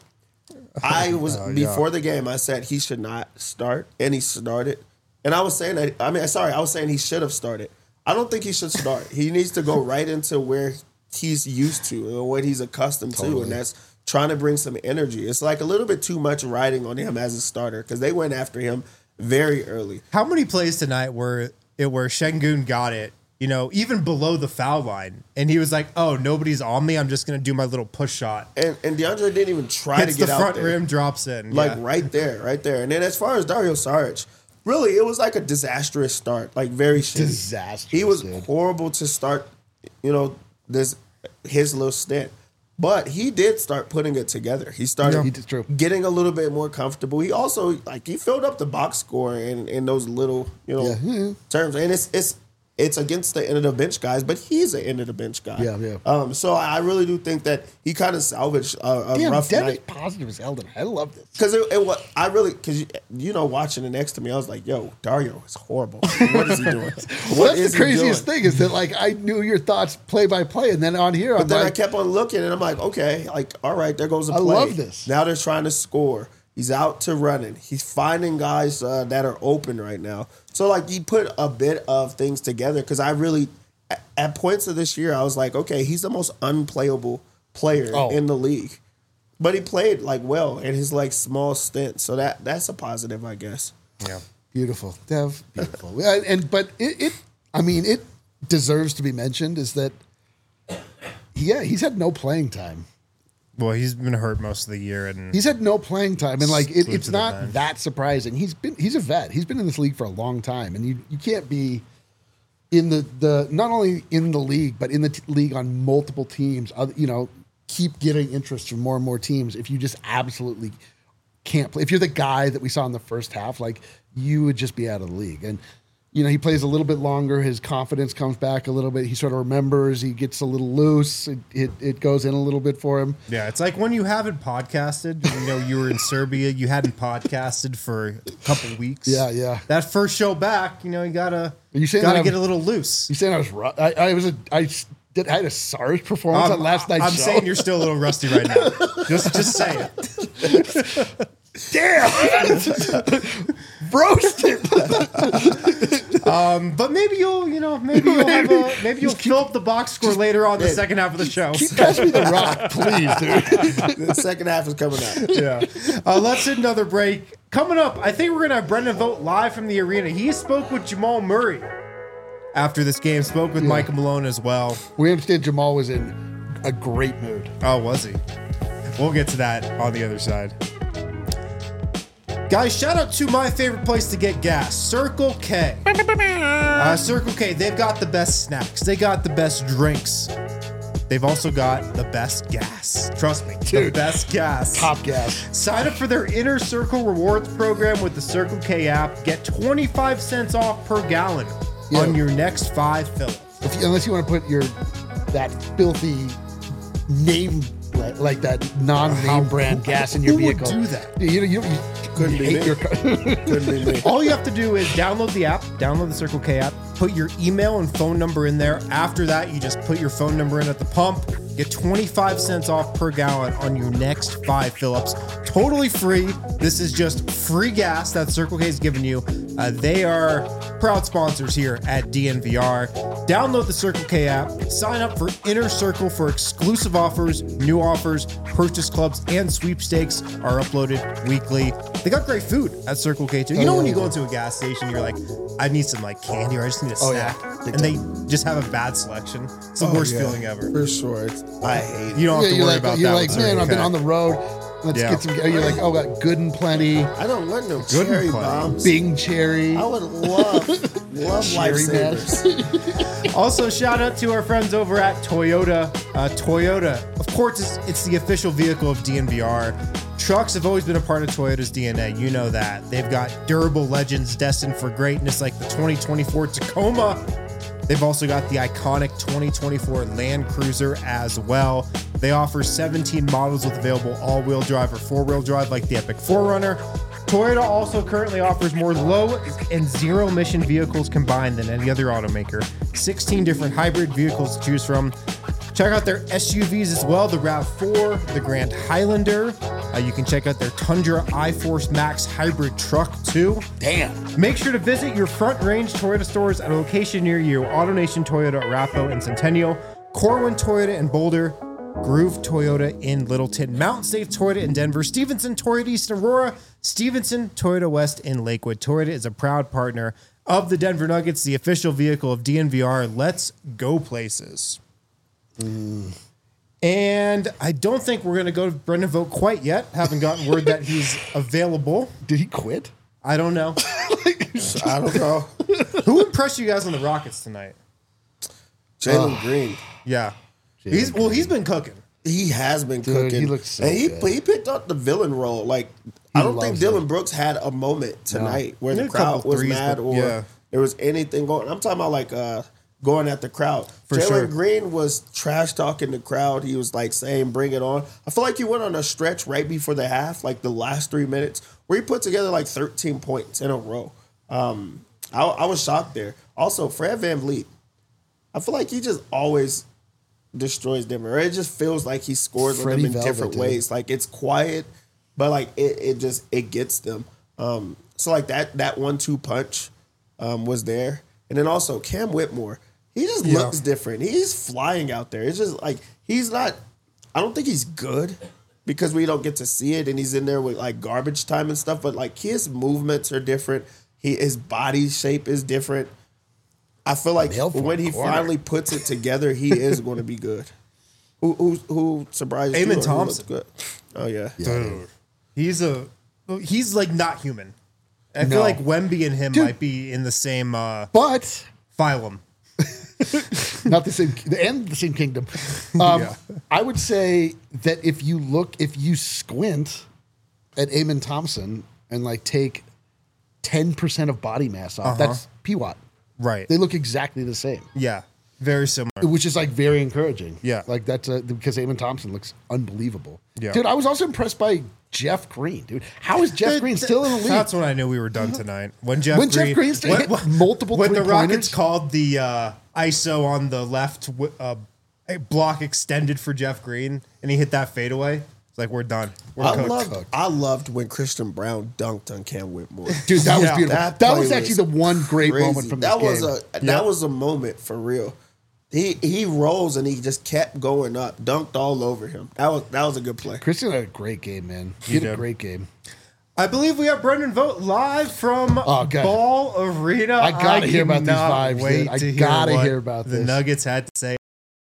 I was Oh, yeah. before the game. I said he should not start, and he started. And I was saying that. I mean, sorry, I was saying he should have started. I don't think he should start. He needs to go right into where he's used to or what he's accustomed to, Totally. and that's trying to bring some energy. It's like a little bit too much riding on him as a starter because they went after him very early. How many plays tonight were it where Şengün got it, you know, even below the foul line, and he was like, "Oh, nobody's on me. I'm just gonna do my little push shot." And and DeAndre didn't even try Hits to get the out front there. rim, drops in, Like yeah. right there, right there. And then as far as Dario Saric, really, it was like a disastrous start, like very shitty. Disastrous, He was dude. horrible to start, you know, this his little stint. But he did start putting it together. He started Yeah, he did, true. getting a little bit more comfortable. He also like he filled up the box score in, in those little, you know, Yeah, yeah. terms. And it's it's it's against the end of the bench guys, but he's an end of the bench guy. Yeah, yeah. Um, so I really do think that he kind of salvaged a, a Damn, rough Devin's night. positive as hell. tonight. I love this. Because it, it was, I really, because you, you know, watching it next to me, I was like, yo, Dario is horrible. What is he doing? Well, What that's is the he craziest doing? thing is that like I knew your thoughts play by play, and then on here I'm But then like, I kept on looking, and I'm like, okay, like, all right, there goes a I play. love this. Now they're trying to score. He's out to running. He's finding guys uh, that are open right now. So, like, he put a bit of things together because I really, at, at points of this year, I was like, okay, he's the most unplayable player Oh. in the league. But he played, like, well in his, like, small stint. So that that's a positive, I guess. yeah. beautiful, Dev, beautiful. and, and but it, it I mean, it deserves to be mentioned is that, yeah, he's had no playing time. Well, he's been hurt most of the year, and He's had no playing time, and like it, Glued it's to the not bench. that surprising. He's been he's a vet. He's been in this league for a long time, and you you can't be in the the not only in the league but in the t- league on multiple teams. Other, you know, keep getting interest from more and more teams. If you just absolutely can't play, if you're the guy that we saw in the first half, like you would just be out of the league. And you know, he plays a little bit longer. His confidence comes back a little bit. He sort of remembers. He gets a little loose. It, it, it goes in a little bit for him. yeah, it's like when you haven't podcasted. You know, you were in Serbia. You hadn't podcasted for a couple weeks. Yeah, yeah. That first show back, you know, you gotta Are you saying gotta that get I'm- a little loose. You saying I was ru- I, I was a I s- did I had a SARS performance I'm, on last night's I'm show. saying you're still a little rusty right now. Just just say it. Damn, roasted. But maybe you'll, you know, maybe you'll have a, maybe you'll fill up the box score later on the second half of the show. Keep passing me the rock, please, dude. The second half is coming out. Yeah. Uh, let's hit another break. Coming up, I think we're gonna have Brendan Vogt live from the arena. He spoke with Jamal Murray after this game. Spoke with Yeah. Michael Malone as well. We understand Jamal was in a great mood. Oh, was he? We'll get to that on the other side. Guys, shout out to my favorite place to get gas, Circle K. Uh, Circle K, they've got the best snacks. They got the best drinks. They've also got the best gas. Trust me, the Dude. best gas. Top gas. Sign up for their Inner Circle Rewards program with the Circle K app. Get twenty-five cents off per gallon Yeah. on your next five fills. If you, unless you want to put your that filthy name like, like that non-name brand gas in your who would vehicle. do that? You know, you, you Couldn't you be hate me. your car. Couldn't be me. All you have to do is download the app, download the Circle K app, put your email and phone number in there. After that, you just put your phone number in at the pump, get twenty-five cents off per gallon on your next five fill-ups. Totally free. This is just free gas that Circle K is giving you. Uh, they are proud sponsors here at D N V R. Download the Circle K app, sign up for Inner Circle for exclusive offers, new offers, purchase clubs, and sweepstakes are uploaded weekly. They got great food at Circle K too. You know when you go into a gas station, you're like, I need some like candy or I just need a Oh, snack. yeah. And they just have a bad selection. It's the Oh, worst yeah. feeling ever. For sure. It's, I hate it. You don't have to you're worry like, about you're that. like, with man, Circle I've been K. on the road. Let's Yeah. get some. You're like, oh, got good and plenty. I don't want no Good cherry and plenty. bombs. Bing cherry. I would love, love Cherry lifesavers. Also, shout out to our friends over at Toyota. Uh, Toyota, of course, it's, it's the official vehicle of D N V R. Trucks have always been a part of Toyota's D N A. You know that. They've got durable legends destined for greatness like the twenty twenty-four Tacoma. They've also got the iconic twenty twenty-four Land Cruiser as well. They offer seventeen models with available all-wheel drive or four-wheel drive like the Epic four runner. Toyota also currently offers more low and zero emission vehicles combined than any other automaker. sixteen different hybrid vehicles to choose from. Check out their S U Vs as well, the RAV four, the Grand Highlander. Uh, you can check out their Tundra iForce Max hybrid truck too. Damn. Make sure to visit your Front Range Toyota stores at a location near you. AutoNation Toyota, Arapahoe and Centennial, Corwin Toyota in Boulder, Groove Toyota in Littleton, Mountain State Toyota in Denver, Stevenson Toyota East Aurora, Stevenson Toyota West in Lakewood. Toyota is a proud partner of the Denver Nuggets, the official vehicle of D N V R. Let's go places. Mm. And I don't think we're going to go to Brendan Vogt quite yet. Haven't gotten word that he's available. Did he quit? I don't know. I don't know. Who impressed you guys on the Rockets tonight? Jalen Green. Yeah. He's well, he's been cooking. He has been Dude, cooking. he looks so and he, good. he picked up the villain role. Like, I don't think loves Dylan it. Brooks had a moment tonight where He the had a couple crowd was threes, mad but- or yeah. there was anything going. I'm talking about like uh, going at the crowd. For Jalen sure. Green was trash talking the crowd. He was like saying, "Bring it on." I feel like he went on a stretch right before the half, like the last three minutes, where he put together like thirteen points in a row. Um, I, I was shocked there. Also, Fred VanVleet, I feel like he just always destroys Denver. It just feels like he scores on Freddie them in Velvet, different dude. ways. Like it's quiet, but like it, it just it gets them. Um, so like that that one two punch um, was there, and then also Cam Whitmore. He just Yeah. looks different. He's flying out there. It's just like he's not. I don't think he's good because we don't get to see it, and he's in there with like garbage time and stuff. But like his movements are different. He his body shape is different. I feel like Nailed for when a he corner. finally puts it together, he is going to be good. Who who who surprised you? Eamon or who Thompson. looked good? Oh yeah. Dude, he's a he's like not human. I No. feel like Wemby and him Dude. might be in the same uh, But phylum. not the same and the same kingdom. Um, Yeah. I would say that if you look, if you squint at Eamon Thompson and like take ten percent of body mass off, Uh-huh. that's P W A T. Right. They look exactly the same, Yeah. Very similar. which is like very encouraging. Yeah. like that's uh because Eamon Thompson looks unbelievable. Yeah. Dude, I was also impressed by Jeff Green. Dude, how is Jeff Green still in the league? That's when I knew we were done tonight. When Jeff When Jeff Green, Green still hit multiple when the three-pointers? Rockets called the uh, I S O on the left wi- uh, a block extended for Jeff Green, and he hit that fadeaway. It's like we're done. We're I cooked. loved I loved when Christian Brown dunked on Cam Whitmore. Dude, that was Yeah. beautiful. That That, play was actually was the one great Crazy. moment from this that game. was a that Yep. was a moment for real. He he rose and he just kept going up, dunked all over him. That was that was a good play. Christian had a great game, man. He, He had a did. great game. I believe we have Brendan Vogt live from Oh, God. Ball Arena. I gotta hear about these cannot vibes, dude. Wait I to hear gotta what hear about the this. Nuggets had to say.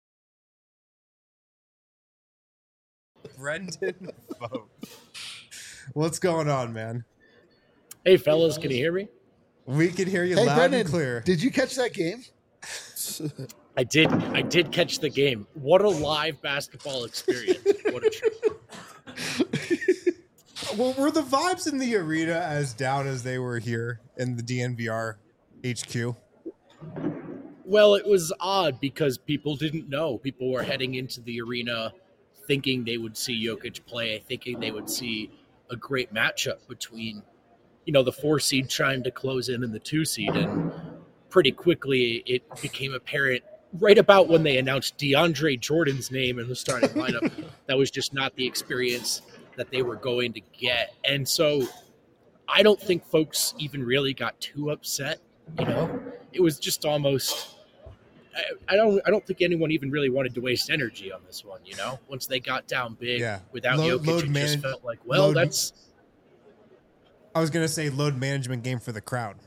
Brendan Vogt. What's going on, man? Hey, fellas, can you hear me? We can hear you Hey, loud Brendan, and clear. did you catch that game? I did. I did catch the game. What a live basketball experience! What a treat. Well, were the vibes in the arena as down as they were here in the D N V R H Q? Well, it was odd because people didn't know. People were heading into the arena thinking they would see Jokic play, thinking they would see a great matchup between, you know, the four seed trying to close in and the two seed, and pretty quickly it became apparent right about when they announced DeAndre Jordan's name in the starting lineup that was just not the experience that they were going to get. And so I don't think folks even really got too upset, you know. It was just almost I, I don't I don't think anyone even really wanted to waste energy on this one, you know. Once they got down big Yeah. without Load- Jokic, load it manage- just felt like, well, load- that's I was gonna say load management game for the crowd.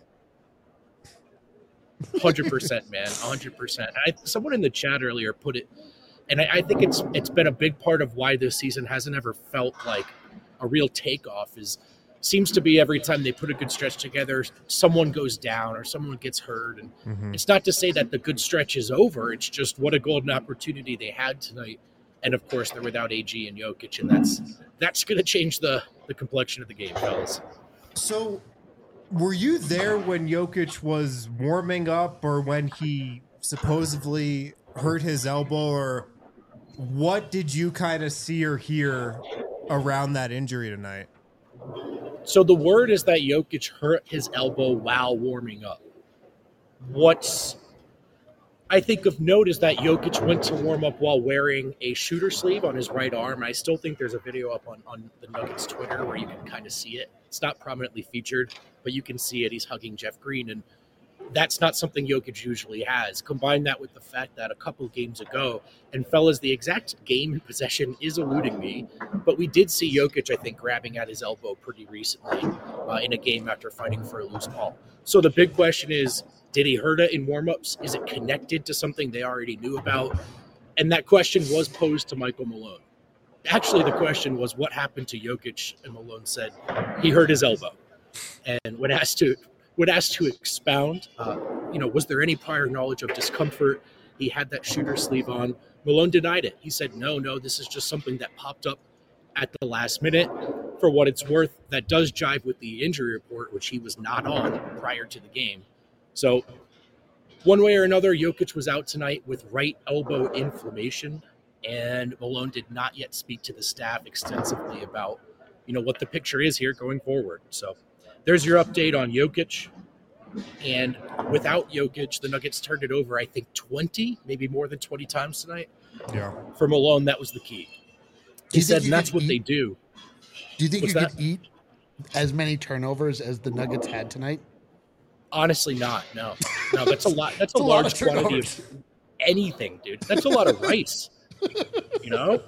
one hundred percent, man, one hundred percent. I, someone in the chat earlier put it, and I, I think it's it's been a big part of why this season hasn't ever felt like a real takeoff. Is seems to be every time they put a good stretch together, someone goes down or someone gets hurt, and Mm-hmm. it's not to say that the good stretch is over. It's just what a golden opportunity they had tonight, and of course they're without A G and Jokic, and that's that's going to change the the complexion of the game, fellas. So, were you there when Jokic was warming up, or when he supposedly hurt his elbow, or what did you kind of see or hear around that injury tonight? So the word is that Jokic hurt his elbow while warming up. What's I think of note is that Jokic went to warm up while wearing a shooter sleeve on his right arm. I still think there's a video up on, on the Nuggets Twitter where you can kind of see it. It's not prominently featured, but you can see it. He's hugging Jeff Green, and that's not something Jokic usually has. Combine that with the fact that a couple games ago, and fellas, the exact game in possession is eluding me, but we did see Jokic, I think, grabbing at his elbow pretty recently uh, in a game after fighting for a loose ball. So the big question is, did he hurt it in warmups? Is it connected to something they already knew about? And that question was posed to Michael Malone. Actually, the question was, what happened to Jokic? And Malone said he hurt his elbow. And when asked to when asked to expound, uh, you know, was there any prior knowledge of discomfort? He had that shooter sleeve on. Malone denied it. He said, no, no, this is just something that popped up at the last minute. For what it's worth, that does jive with the injury report, which he was not on prior to the game. So one way or another, Jokic was out tonight with right elbow inflammation, and Malone did not yet speak to the staff extensively about, you know, what the picture is here going forward. So there's your update on Jokic. And without Jokic, the Nuggets turned it over, I think, twenty, maybe more than twenty times tonight. Yeah. For Malone, that was the key. He you think said, you and that's could what they eat- do. Do you think What's you that? could eat as many turnovers as the Nuggets had tonight? Honestly, not. No, no, that's a lot. That's a, a lot large of quantity of anything, dude. That's a lot of rice, you know?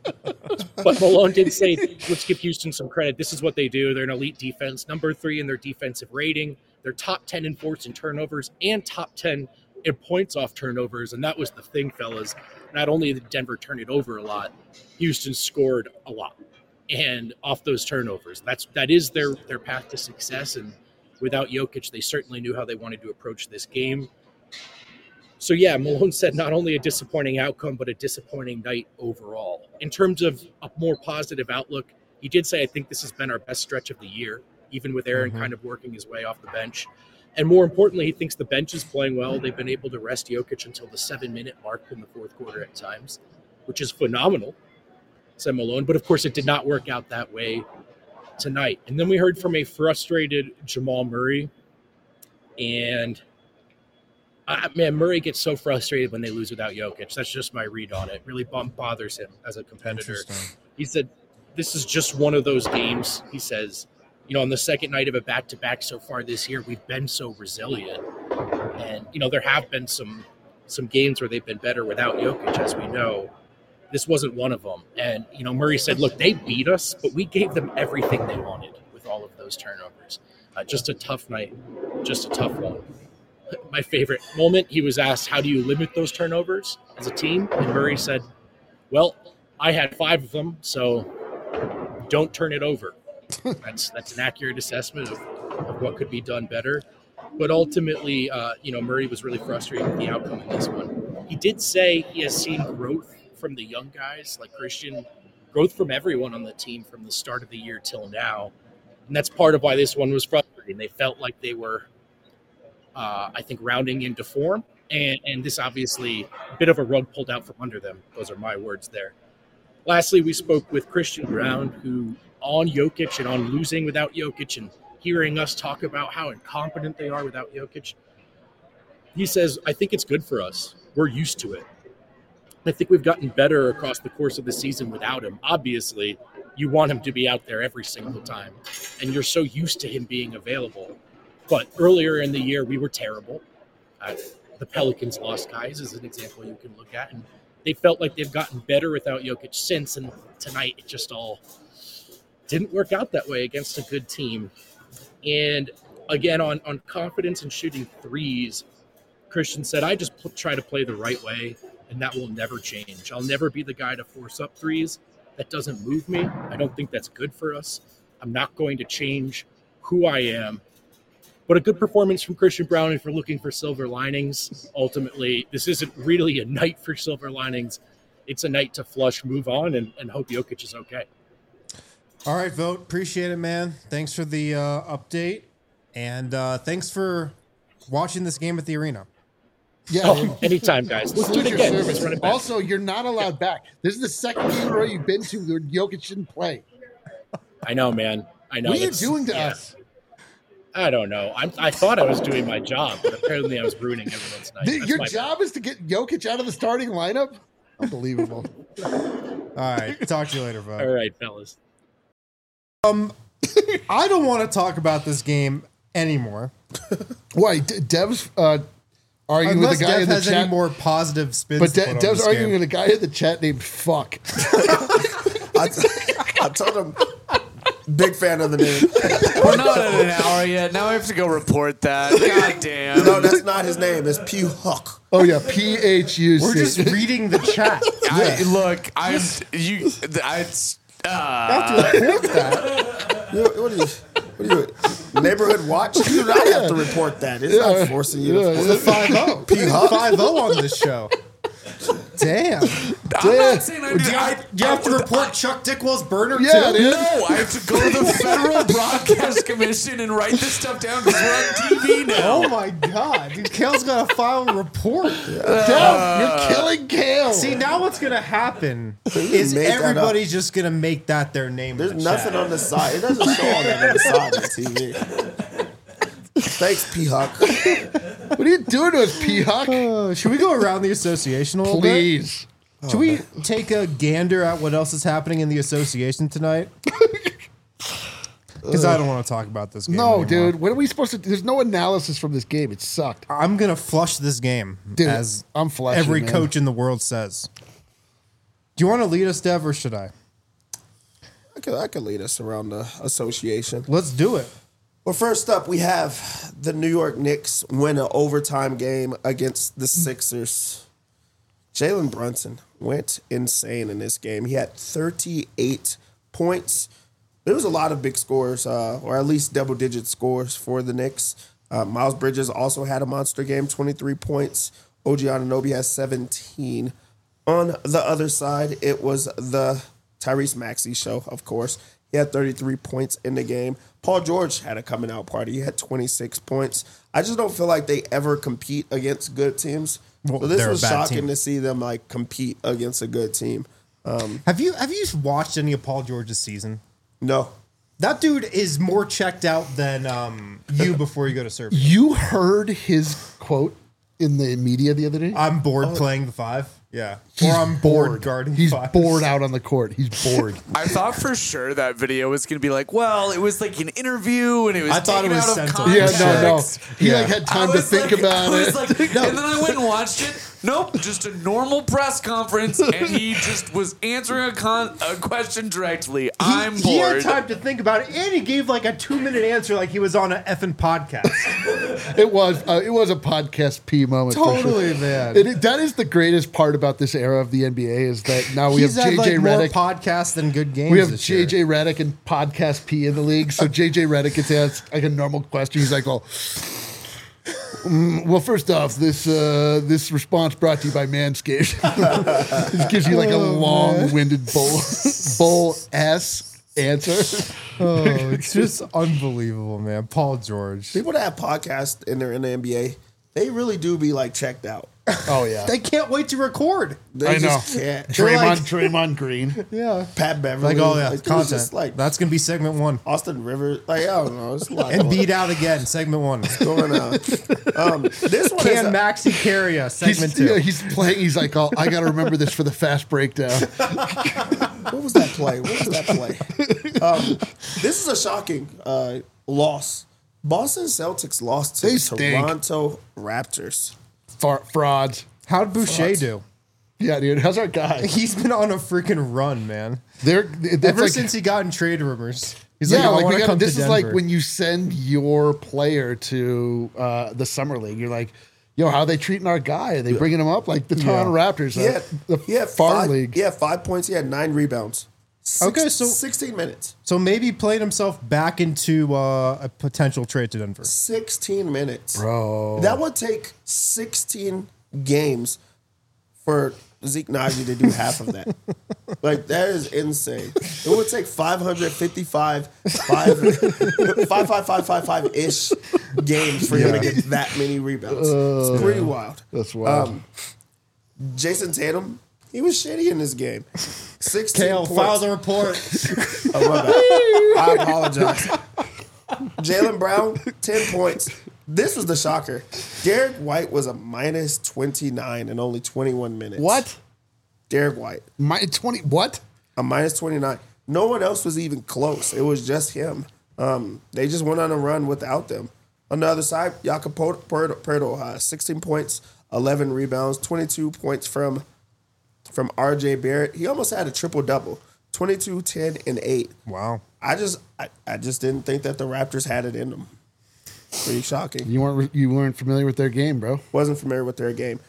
But Malone did say, let's give Houston some credit. This is what they do. They're an elite defense, number three in their defensive rating. They're top ten in forced and turnovers and top ten in points off turnovers, and that was the thing, fellas. Not only did Denver turn it over a lot, Houston scored a lot, and off those turnovers. That's that is their their path to success. And without Jokic, they certainly knew how they wanted to approach this game. So yeah, Malone said not only a disappointing outcome, but a disappointing night overall. In terms of a more positive outlook, he did say, I think this has been our best stretch of the year, even with Aaron mm-hmm. kind of working his way off the bench. And more importantly, he thinks the bench is playing well. They've been able to rest Jokic until the seven-minute mark in the fourth quarter at times, which is phenomenal, said Malone. But, of course, it did not work out that way tonight. And then we heard from a frustrated Jamal Murray. And, uh, man, Murray gets so frustrated when they lose without Jokic. That's just my read on it. It really bothers him as a competitor. He said, this is just one of those games, he says, you know, on the second night of a back-to-back so far this year, we've been so resilient. And, you know, there have been some some games where they've been better without Jokic, as we know. This wasn't one of them. And, you know, Murray said, look, they beat us, but we gave them everything they wanted with all of those turnovers. Uh, just a tough night, just a tough one. My favorite moment, he was asked, how do you limit those turnovers as a team? And Murray said, well, I had five of them, so don't turn it over. That's that's an accurate assessment of, of what could be done better. But ultimately, uh, you know, Murray was really frustrated with the outcome in this one. He did say he has seen growth from the young guys like Christian, growth from everyone on the team from the start of the year till now. And that's part of why this one was frustrating. They felt like they were, uh, I think, rounding into form. And, and this obviously a bit of a rug pulled out from under them. Those are my words there. Lastly, we spoke with Christian Brown, who on Jokic and on losing without Jokic and hearing us talk about how incompetent they are without Jokic. He says, I think it's good for us. We're used to it. I think we've gotten better across the course of the season without him. Obviously, you want him to be out there every single time, and you're so used to him being available. But earlier in the year, we were terrible. Uh, the Pelicans lost guys is an example you can look at, and they felt like they've gotten better without Jokic since, and tonight it just all didn't work out that way against a good team. And again, on, on confidence and shooting threes, Christian said, I just pl- try to play the right way, and that will never change. I'll never be the guy to force up threes. That doesn't move me. I don't think that's good for us. I'm not going to change who I am. But a good performance from Christian Brown, if you're looking for silver linings. Ultimately, this isn't really a night for silver linings. It's a night to flush, move on, and, and hope Jokic is okay. All right, Vogt. Appreciate it, man. Thanks for the uh, update. And uh, thanks for watching this game at the arena. Yeah. Oh, anytime, guys. Let's do it again. Let's run it back. Also, you're not allowed back. This is the second game in a row you've been to where Jokic didn't play. I know, man. I know. What are you doing to yeah. us? I don't know. I'm, I thought I was doing my job, but apparently I was ruining everyone's night. The, your my job bad. is to get Jokic out of the starting lineup? Unbelievable. All right. Talk to you later, Vogt. All right, fellas. Um, I don't want to talk about this game anymore. Why? D- Dev's uh, arguing Unless with the guy Dev in the has chat. any more positive spins. But to De- put on Dev's this arguing game. with a guy in the chat named Fuck. I, t- I told him, big fan of the name. We're not at an hour yet. Now I have to go report that. God damn. No, that's not his name. It's Pew Huck. Oh, yeah. P H U C. We're just reading the chat. I, look, I'm you. I. Uh, have to report that. You, what are you? What are you? Neighborhood Watch? You do not have to report that. It's Yeah. not forcing you. Yeah, to yeah. five oh. P Huck. five oh on this show. Damn. I'm not saying I Do do. you, I, do you have to I- report Chuck Dickwell's burner Yeah, too? dude. No, I have to go to the Federal Broadcast Commission and write this stuff down because we're on T V now. Oh my God. Dude, Kale's got to file a report. Dev, you're killing Kale. See, now what's going to happen is made that everybody's just going to make that their name. There's in the nothing chat. on the side. It doesn't show all that on the side of the T V. Thanks, P Huck. What are you doing to us, P Huck? Uh, should we go around the association a little Please. bit? Should we take a gander at what else is happening in the association tonight? Because I don't want to talk about this game No, anymore. dude. What are we supposed to do? There's no analysis from this game. It sucked. I'm going to flush this game, Dude, as I'm flushing, every man. coach in the world says. Do you want to lead us, Dev, or should I? I could, I could lead us around the association. Let's do it. Well, first up, we have the New York Knicks win an overtime game against the Sixers. Jalen Brunson went insane in this game. He had thirty-eight points. There was a lot of big scores, uh, or at least double-digit scores for the Knicks. Uh, Miles Bridges also had a monster game, twenty-three points. O G Anunoby has seventeen. On the other side, it was the Tyrese Maxey show, of course. He had thirty-three points in the game. Paul George had a coming out party. He had twenty-six points. I just don't feel like they ever compete against good teams. Well, so this they're a was bad shocking team. to see them like compete against a good team. Um, Have you have you watched any of Paul George's season? no. That dude is more checked out than um, you before you go to surf. You heard his quote in the media the other day? I'm bored playing the five. Yeah. Or I'm bored guarding He's five. bored out on the court. He's bored. I thought for sure that video was going to be like, well, it was like an interview and it was I thought taken it was out of sent to- yeah, context. no, no. He Yeah. like had I time to was think like- about I was it. like- And then I went and watched it. Nope, just a normal press conference, and he just was answering a, con- a question directly. I'm He had bored. time to think about it, and he gave like a two minute answer, like he was on an effing podcast. It was uh, it was a podcast P moment. for sure. Totally, man. It, it- that is the greatest part about this era of the N B A is that now we He's have had J J like more Redick. podcasts than good games. We have this J year. J Redick and podcast P in the league. So J J Redick gets asked like a normal question. He's like, "Well, mm, well, first off, this uh, this response brought to you by Manscaped." This gives you like a Oh, long-winded bull bull s answer. Oh, it's just unbelievable, man. Paul George. People that have podcasts and they're in the N B A, they really do be like checked out. Oh yeah, They can't wait to record. They I know. just can't. Draymond like- Draymond Green. Yeah. Pat Beverly. Like, oh yeah, like, it was content. just like That's gonna be segment one. Austin Rivers. Like, I don't know. It's a lot And going- beat out again, segment one. going on. Um, this one is Can a- Maxi carry us? Segment He's, two. yeah, he's playing. He's like, oh, I got to remember this for the fast breakdown. What was that play? What was that play? Um, this is a shocking uh, loss. Boston Celtics lost to They the stink. Toronto Raptors. Fra- frauds. How'd Boucher Frauds. do? Yeah, dude. How's our guy? He's been on a freaking run, man. They're it's Ever like, since he got in trade rumors. He's yeah, like, I like want we to got, come this to is like Denver. when you send your player to uh, the summer league. You're like, yo, how are they treating our guy? Are they bringing him up like the Toronto Raptors? He uh, had, the he had farm five, league. He had five points. He had nine rebounds. Six, Okay, so- sixteen minutes. So maybe played himself back into uh, a potential trade to Denver. sixteen minutes. Bro. That would take sixteen games for Zeke Naji to do half of that. Like, that is insane. It would take five hundred fifty-five, five, five, five, five, five, five ish games for him to get that many rebounds. It's pretty wild. That's wild. Um, Jason Tatum, he was shitty in this game. sixteen Kale, points. file the report. Oh, my bad. I apologize. Jalen Brown, ten points. This was the shocker. Derek White was a minus twenty-nine in only twenty-one minutes. What? Derek White, My twenty? What? a minus twenty-nine. No one else was even close. It was just him. Um, they just went on a run without them. On the other side, Jakob Poeltl, uh, sixteen points, eleven rebounds, twenty-two points from from R J Barrett. He almost had a triple-double, twenty-two, ten, and eight. Wow. I just I, I just didn't think that the Raptors had it in them. Pretty shocking. You weren't you weren't familiar with their game, bro. Wasn't familiar with their game.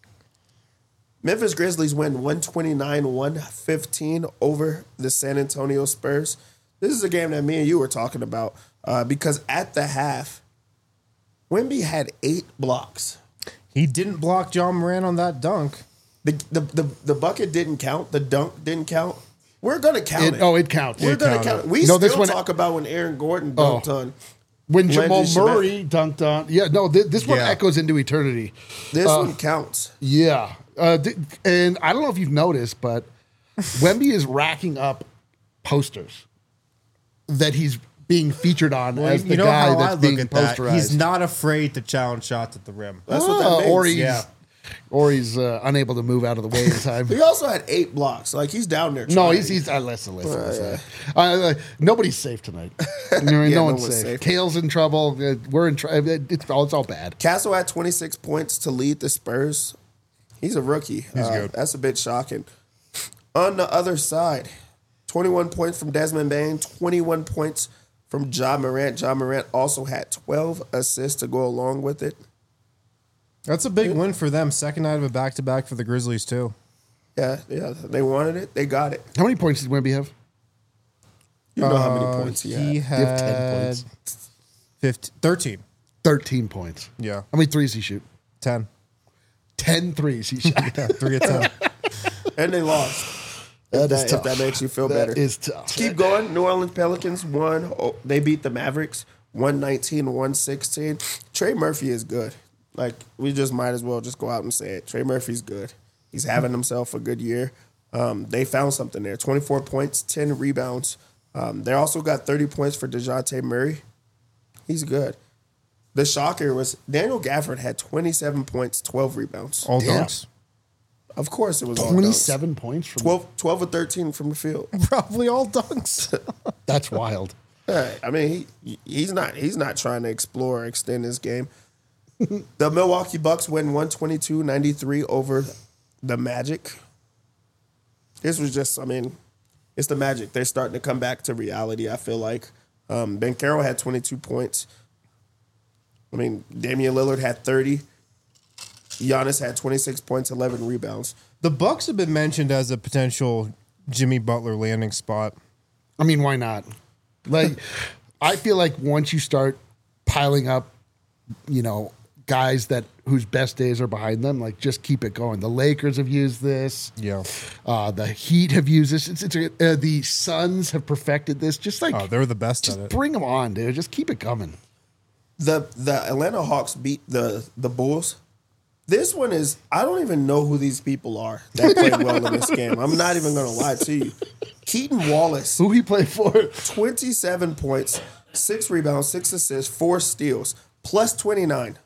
Memphis Grizzlies win one twenty-nine one fifteen over the San Antonio Spurs. This is a game that me and you were talking about uh, because at the half, Wemby had eight blocks. He didn't block John Moran on that dunk. The the the, the bucket didn't count. The dunk didn't count. We're gonna count It, it. oh, it counts. We're It gonna counted. count it. We No, still this one- talk about when Aaron Gordon dunked Oh. on. When Jamal Landry Shamet. Murray dunked on, yeah, no, th- this one Yeah. echoes into eternity. This Uh, one counts. Yeah, uh, th- and I don't know if you've noticed, but Wemby is racking up posters that he's being featured on Well, as the you know guy how I that's look being at that. posterized. He's not afraid to challenge shots at the rim. That's what Ah, that means. or he's Yeah. or he's uh, unable to move out of the way in time. He also had eight blocks. Like he's down there. No, trying. he's he's uh, listen, listen, listen. Uh, uh, nobody's safe tonight. You know, Yeah, no no one's one's safe. safe. Kale's in trouble. Uh, we're in trouble. It's all it's all bad. Castle had twenty-six points to lead the Spurs. He's a rookie. He's good. That's a bit shocking. On the other side, twenty-one points from Desmond Bain, twenty-one points from Ja Morant. Ja Morant also had twelve assists to go along with it. That's a big win for them. Second night of a back-to-back for the Grizzlies, too. Yeah, yeah. They wanted it. They got it. How many points did Wemby have? You know how many Uh, points he, he had. Give ten had points. fifteen, thirteen. thirteen points. Yeah. How many threes he shoot? ten. ten threes he shot. Yeah, three of ten. And they lost. That If is that, tough. if that makes you feel That better. is tough. Keep going. New Orleans Pelicans won. Oh, they beat the Mavericks one nineteen, one sixteen. Trey Murphy is good. Like, we just might as well just go out and say it. Trey Murphy's good. He's having himself a good year. Um, they found something there. twenty-four points, ten rebounds. Um, they also got thirty points for DeJounte Murray. He's good. The shocker was Daniel Gafford had twenty-seven points, twelve rebounds. All Damn. dunks. Of course it was all dunks. twenty-seven points from twelve, twelve or thirteen from the field. Probably all dunks. That's wild. Yeah, I mean, he he's not he's not trying to explore or extend his game. The Milwaukee Bucks win one twenty-two ninety-three over the Magic. This was just, I mean, it's the Magic. They're starting to come back to reality, I feel like. Um, Ben Carroll had twenty-two points. I mean, Damian Lillard had thirty. Giannis had twenty-six points, eleven rebounds. The Bucks have been mentioned as a potential Jimmy Butler landing spot. I mean, why not? Like, I feel like once you start piling up, you know, guys that whose best days are behind them, like just keep it going. The Lakers have used this. Yeah. Uh, the Heat have used this. It's, it's uh, the Suns have perfected this. Just like Oh, they're the best just at it. bring them on, dude. Just keep it coming. The the Atlanta Hawks beat the the Bulls. This one is, I don't even know who these people are that played well in this game. I'm not even going to lie to you. Keaton Wallace, Who he play for? twenty-seven points, six rebounds, six assists, four steals, plus twenty-nine.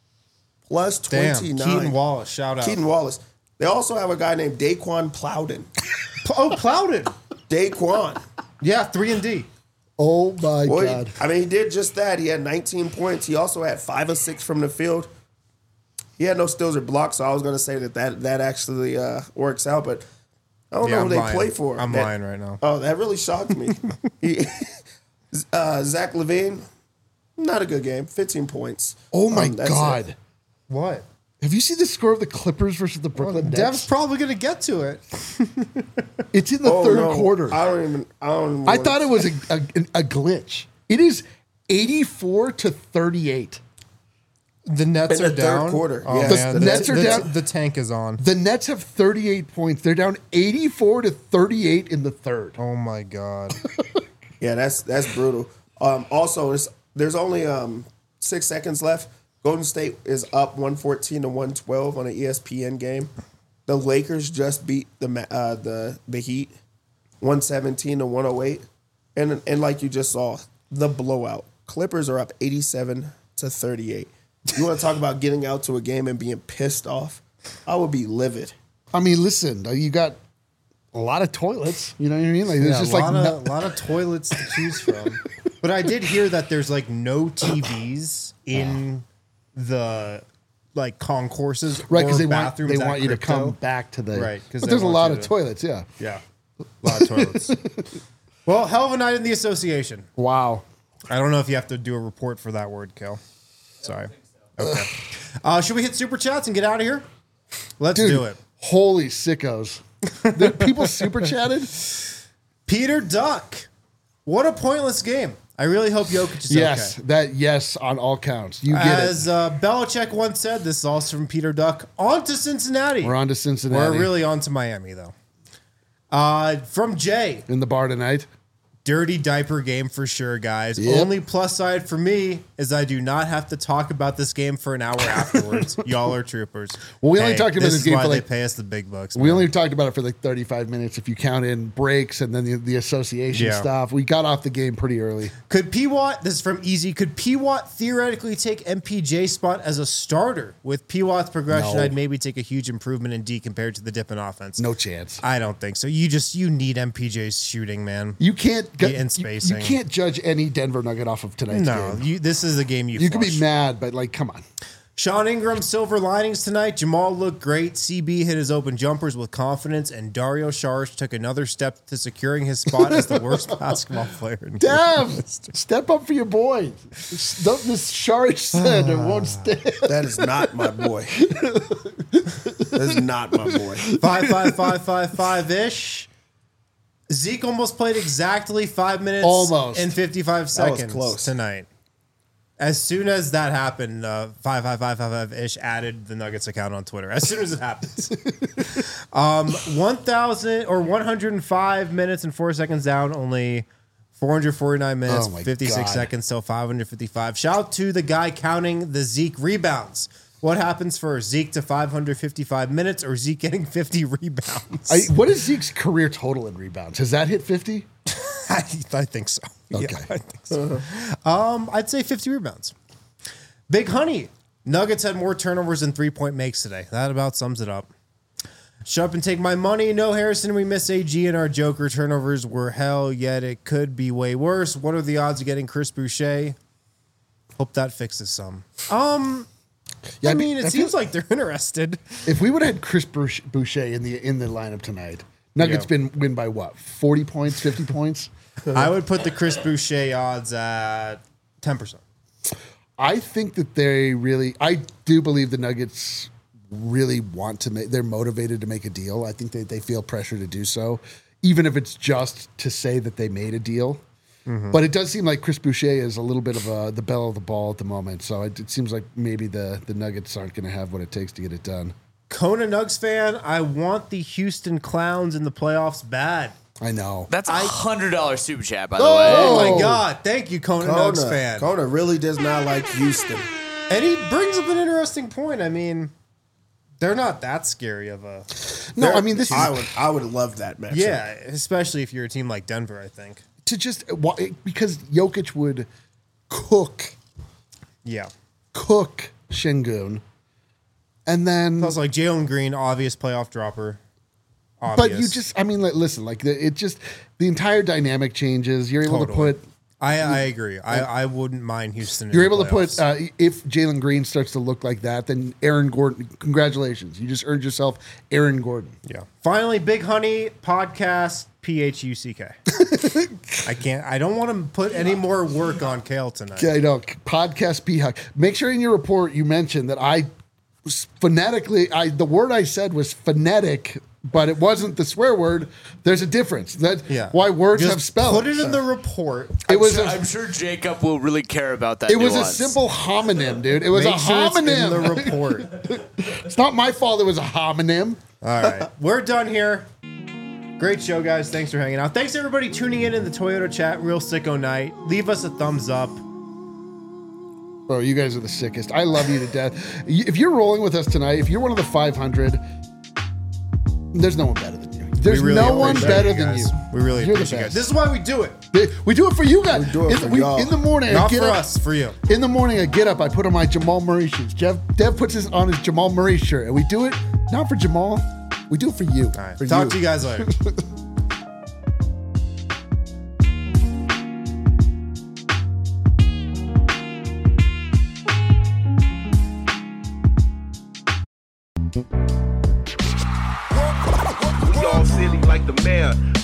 Plus Damn. twenty-nine. Keaton Wallace, shout out. Keaton Wallace. They also have a guy named Daquan Plowden. P- oh, Plowden. Daquan. Yeah, three and D. Oh my Boy, god! I mean, he did just that. He had nineteen points. He also had five or six from the field. He had no steals or blocks, so I was going to say that that, that actually uh, works out, but I don't Yeah, know I'm who they lying. play for. I'm That- lying right now. Oh, that really shocked me. he, uh, Zach LaVine, not a good game. fifteen points. Oh my Um, that's god! it. What? Have you seen the score of the Clippers versus the Well, Brooklyn Dev's Nets? probably going to get to it. It's in the Oh, third no. quarter. I don't even. I don't. Even I wanna- thought it was a, a, a glitch. It is eighty-four to thirty-eight. The Nets In the are third down. quarter, Oh, yes. man. The Nets are the, down. The tank is on. The Nets have thirty-eight points. They're down eighty-four to thirty-eight in the third. Oh, my God. Yeah, that's that's brutal. Um, also, it's, there's only um, six seconds left. Golden State is up one fourteen to one twelve on an E S P N game. The Lakers just beat the Ma- uh, the the Heat one seventeen to one oh eight, and and like you just saw, the blowout. Clippers are up eighty-seven to thirty-eight. You want to talk about getting out to a game and being pissed off? I would be livid. I mean, listen, you got a lot of toilets. You know what I mean? Like Yeah, it's a just lot, like of, no- lot of toilets to choose from. But I did hear that there's like no T Vs in the like concourses right or because they want bathrooms they at want you to Crypto. come back to the Right, 'cause But they there's a want lot you of to- toilets. Yeah. Yeah, a lot of toilets. Well, hell of a night in the association. Wow. I don't know if you have to do a report for that word, Kel. Sorry. Okay. Uh, should we hit super chats and get out of here? Let's Dude, do it. holy sickos! The people super chatted. Peter Duck. What a pointless game. I really hope Jokic is Yes, okay. that yes on all counts. You get As uh, Belichick once said, this is also from Peter Duck. On to Cincinnati. it. We're on to Cincinnati. We're really on to Miami, though. Uh, from Jay. in the bar tonight. Dirty diaper game for sure, guys. Yep. Only plus side for me is I do not have to talk about this game for an hour afterwards. Y'all are troopers. Well, we only talked about this is game why for they like- pay us the big bucks. We man. only talked about it for like thirty-five minutes if you count in breaks and then the, the association Yeah. stuff. We got off the game pretty early. Could P Watt, this is from Easy, could P Watt theoretically take M P J's spot as a starter? With P Watt's progression, No. I'd maybe take a huge improvement in D compared to the dip in offense. No chance. I don't think so. You just, you need M P J's shooting, man. You can't Yeah, get and you- spacing. You, can't judge any Denver Nugget off of tonight's No, game. you, this is a game you You can be flush. mad, but like, come on. Sean Ingram, silver linings tonight. Jamal looked great. C B hit his open jumpers with confidence, and Dario Saric took another step to securing his spot as the worst basketball player in Damn, step up for your boy. This, this Saric said it won't stand. That is not my boy. That is not my boy. Five, five, five, five, five ish. Zeke almost played exactly five minutes Almost. and fifty-five seconds close. tonight. As soon as that happened, uh, five five five five five ish added the Nuggets account on Twitter. As soon as it happens, um, one thousand or one hundred five minutes and four seconds down, only four hundred forty nine minutes, Oh my fifty six God. seconds, so five hundred fifty five. Shout out to the guy counting the Zeke rebounds. What happens for Zeke to five hundred fifty five minutes, or Zeke getting fifty rebounds? I, what is Zeke's career total in rebounds? Has that hit fifty? I, I think so. Okay. Yeah, I think so. um, I'd say fifty rebounds. Big Honey. Nuggets had more turnovers than three-point makes today. That about sums it up. Shut up and take my money. No Harrison. We miss A G and our Joker. Turnovers were hell, yet it could be way worse. What are the odds of getting Chris Boucher? Hope that fixes some. Um, Yeah, I mean, it I seems feel- like they're interested. If we would have had Chris Bouch- Boucher in the in the lineup tonight, Nuggets Yeah. been win by what? Forty points, fifty points. I would put the Chris Boucher odds at ten percent. I think that they really, I do believe the Nuggets really want to make, they're motivated to make a deal. I think they, they feel pressure to do so, even if it's just to say that they made a deal. Mm-hmm. But it does seem like Chris Boucher is a little bit of a, the belle of the ball at the moment. So it, it seems like maybe the, the Nuggets aren't going to have what it takes to get it done. Kona Nugs fan, I want the Houston Clowns in the playoffs bad. I know. That's a hundred dollar super chat, by the Oh! way. Oh Oh. my God. Thank you, Kona, Nugs Kona, fan. Kona really does not like Houston. And he brings up an interesting point. I mean, they're not that scary of a. No, I mean, this is I would I would love that matchup. Yeah, especially if you're a team like Denver, I think. to just, because Jokic would cook, Yeah. cook Şengün. And then, Plus, like Jalen Green, obvious playoff dropper. but Obvious. you just, I mean, like, listen, like the, it just, the entire dynamic changes. You're able Totally. to put, I, I agree. I, I wouldn't mind Houston. in you're the able to put, playoffs. uh, if Jalen Green starts to look like that, then Aaron Gordon, congratulations. You just earned yourself Aaron Gordon. Yeah. Finally, Big Honey podcast P H U C K. I can't. I don't want to put any more work on Kale tonight. Okay, I know. Podcast P H U C. Make sure in your report you mention that I was phonetically, I the word I said was phonetic, but it wasn't the swear word. There's a difference. That Yeah. why words Just have spells. Put it in the report. It was Sure- a, I'm sure Jacob will really care about that. it was a nuance. simple homonym, dude. It was Make a sure it's in homonym. the report. It's not my fault. It was a homonym. All right. We're done here. Great show, guys. Thanks for hanging out. Thanks, everybody, tuning in in the Toyota chat. Real sicko night. Leave us a thumbs up. Bro, you guys are the sickest. I love you to death. If you're rolling with us tonight, if you're one of the five hundred, there's no one better than you. There's We really no one appreciate better you than guys. you. We really You're the appreciate it. best. This is why we do it. We do it for you guys. We do it in, for we- y'all. in the morning, I Not get for up, us, for you. In the morning, I get up, I put on my Jamal Murray shoes. Jeff, Dev puts his on his Jamal Murray shirt, and we do it not for Jamal, we do it for you. All right. For Talk to you guys later. We all silly like the mayor.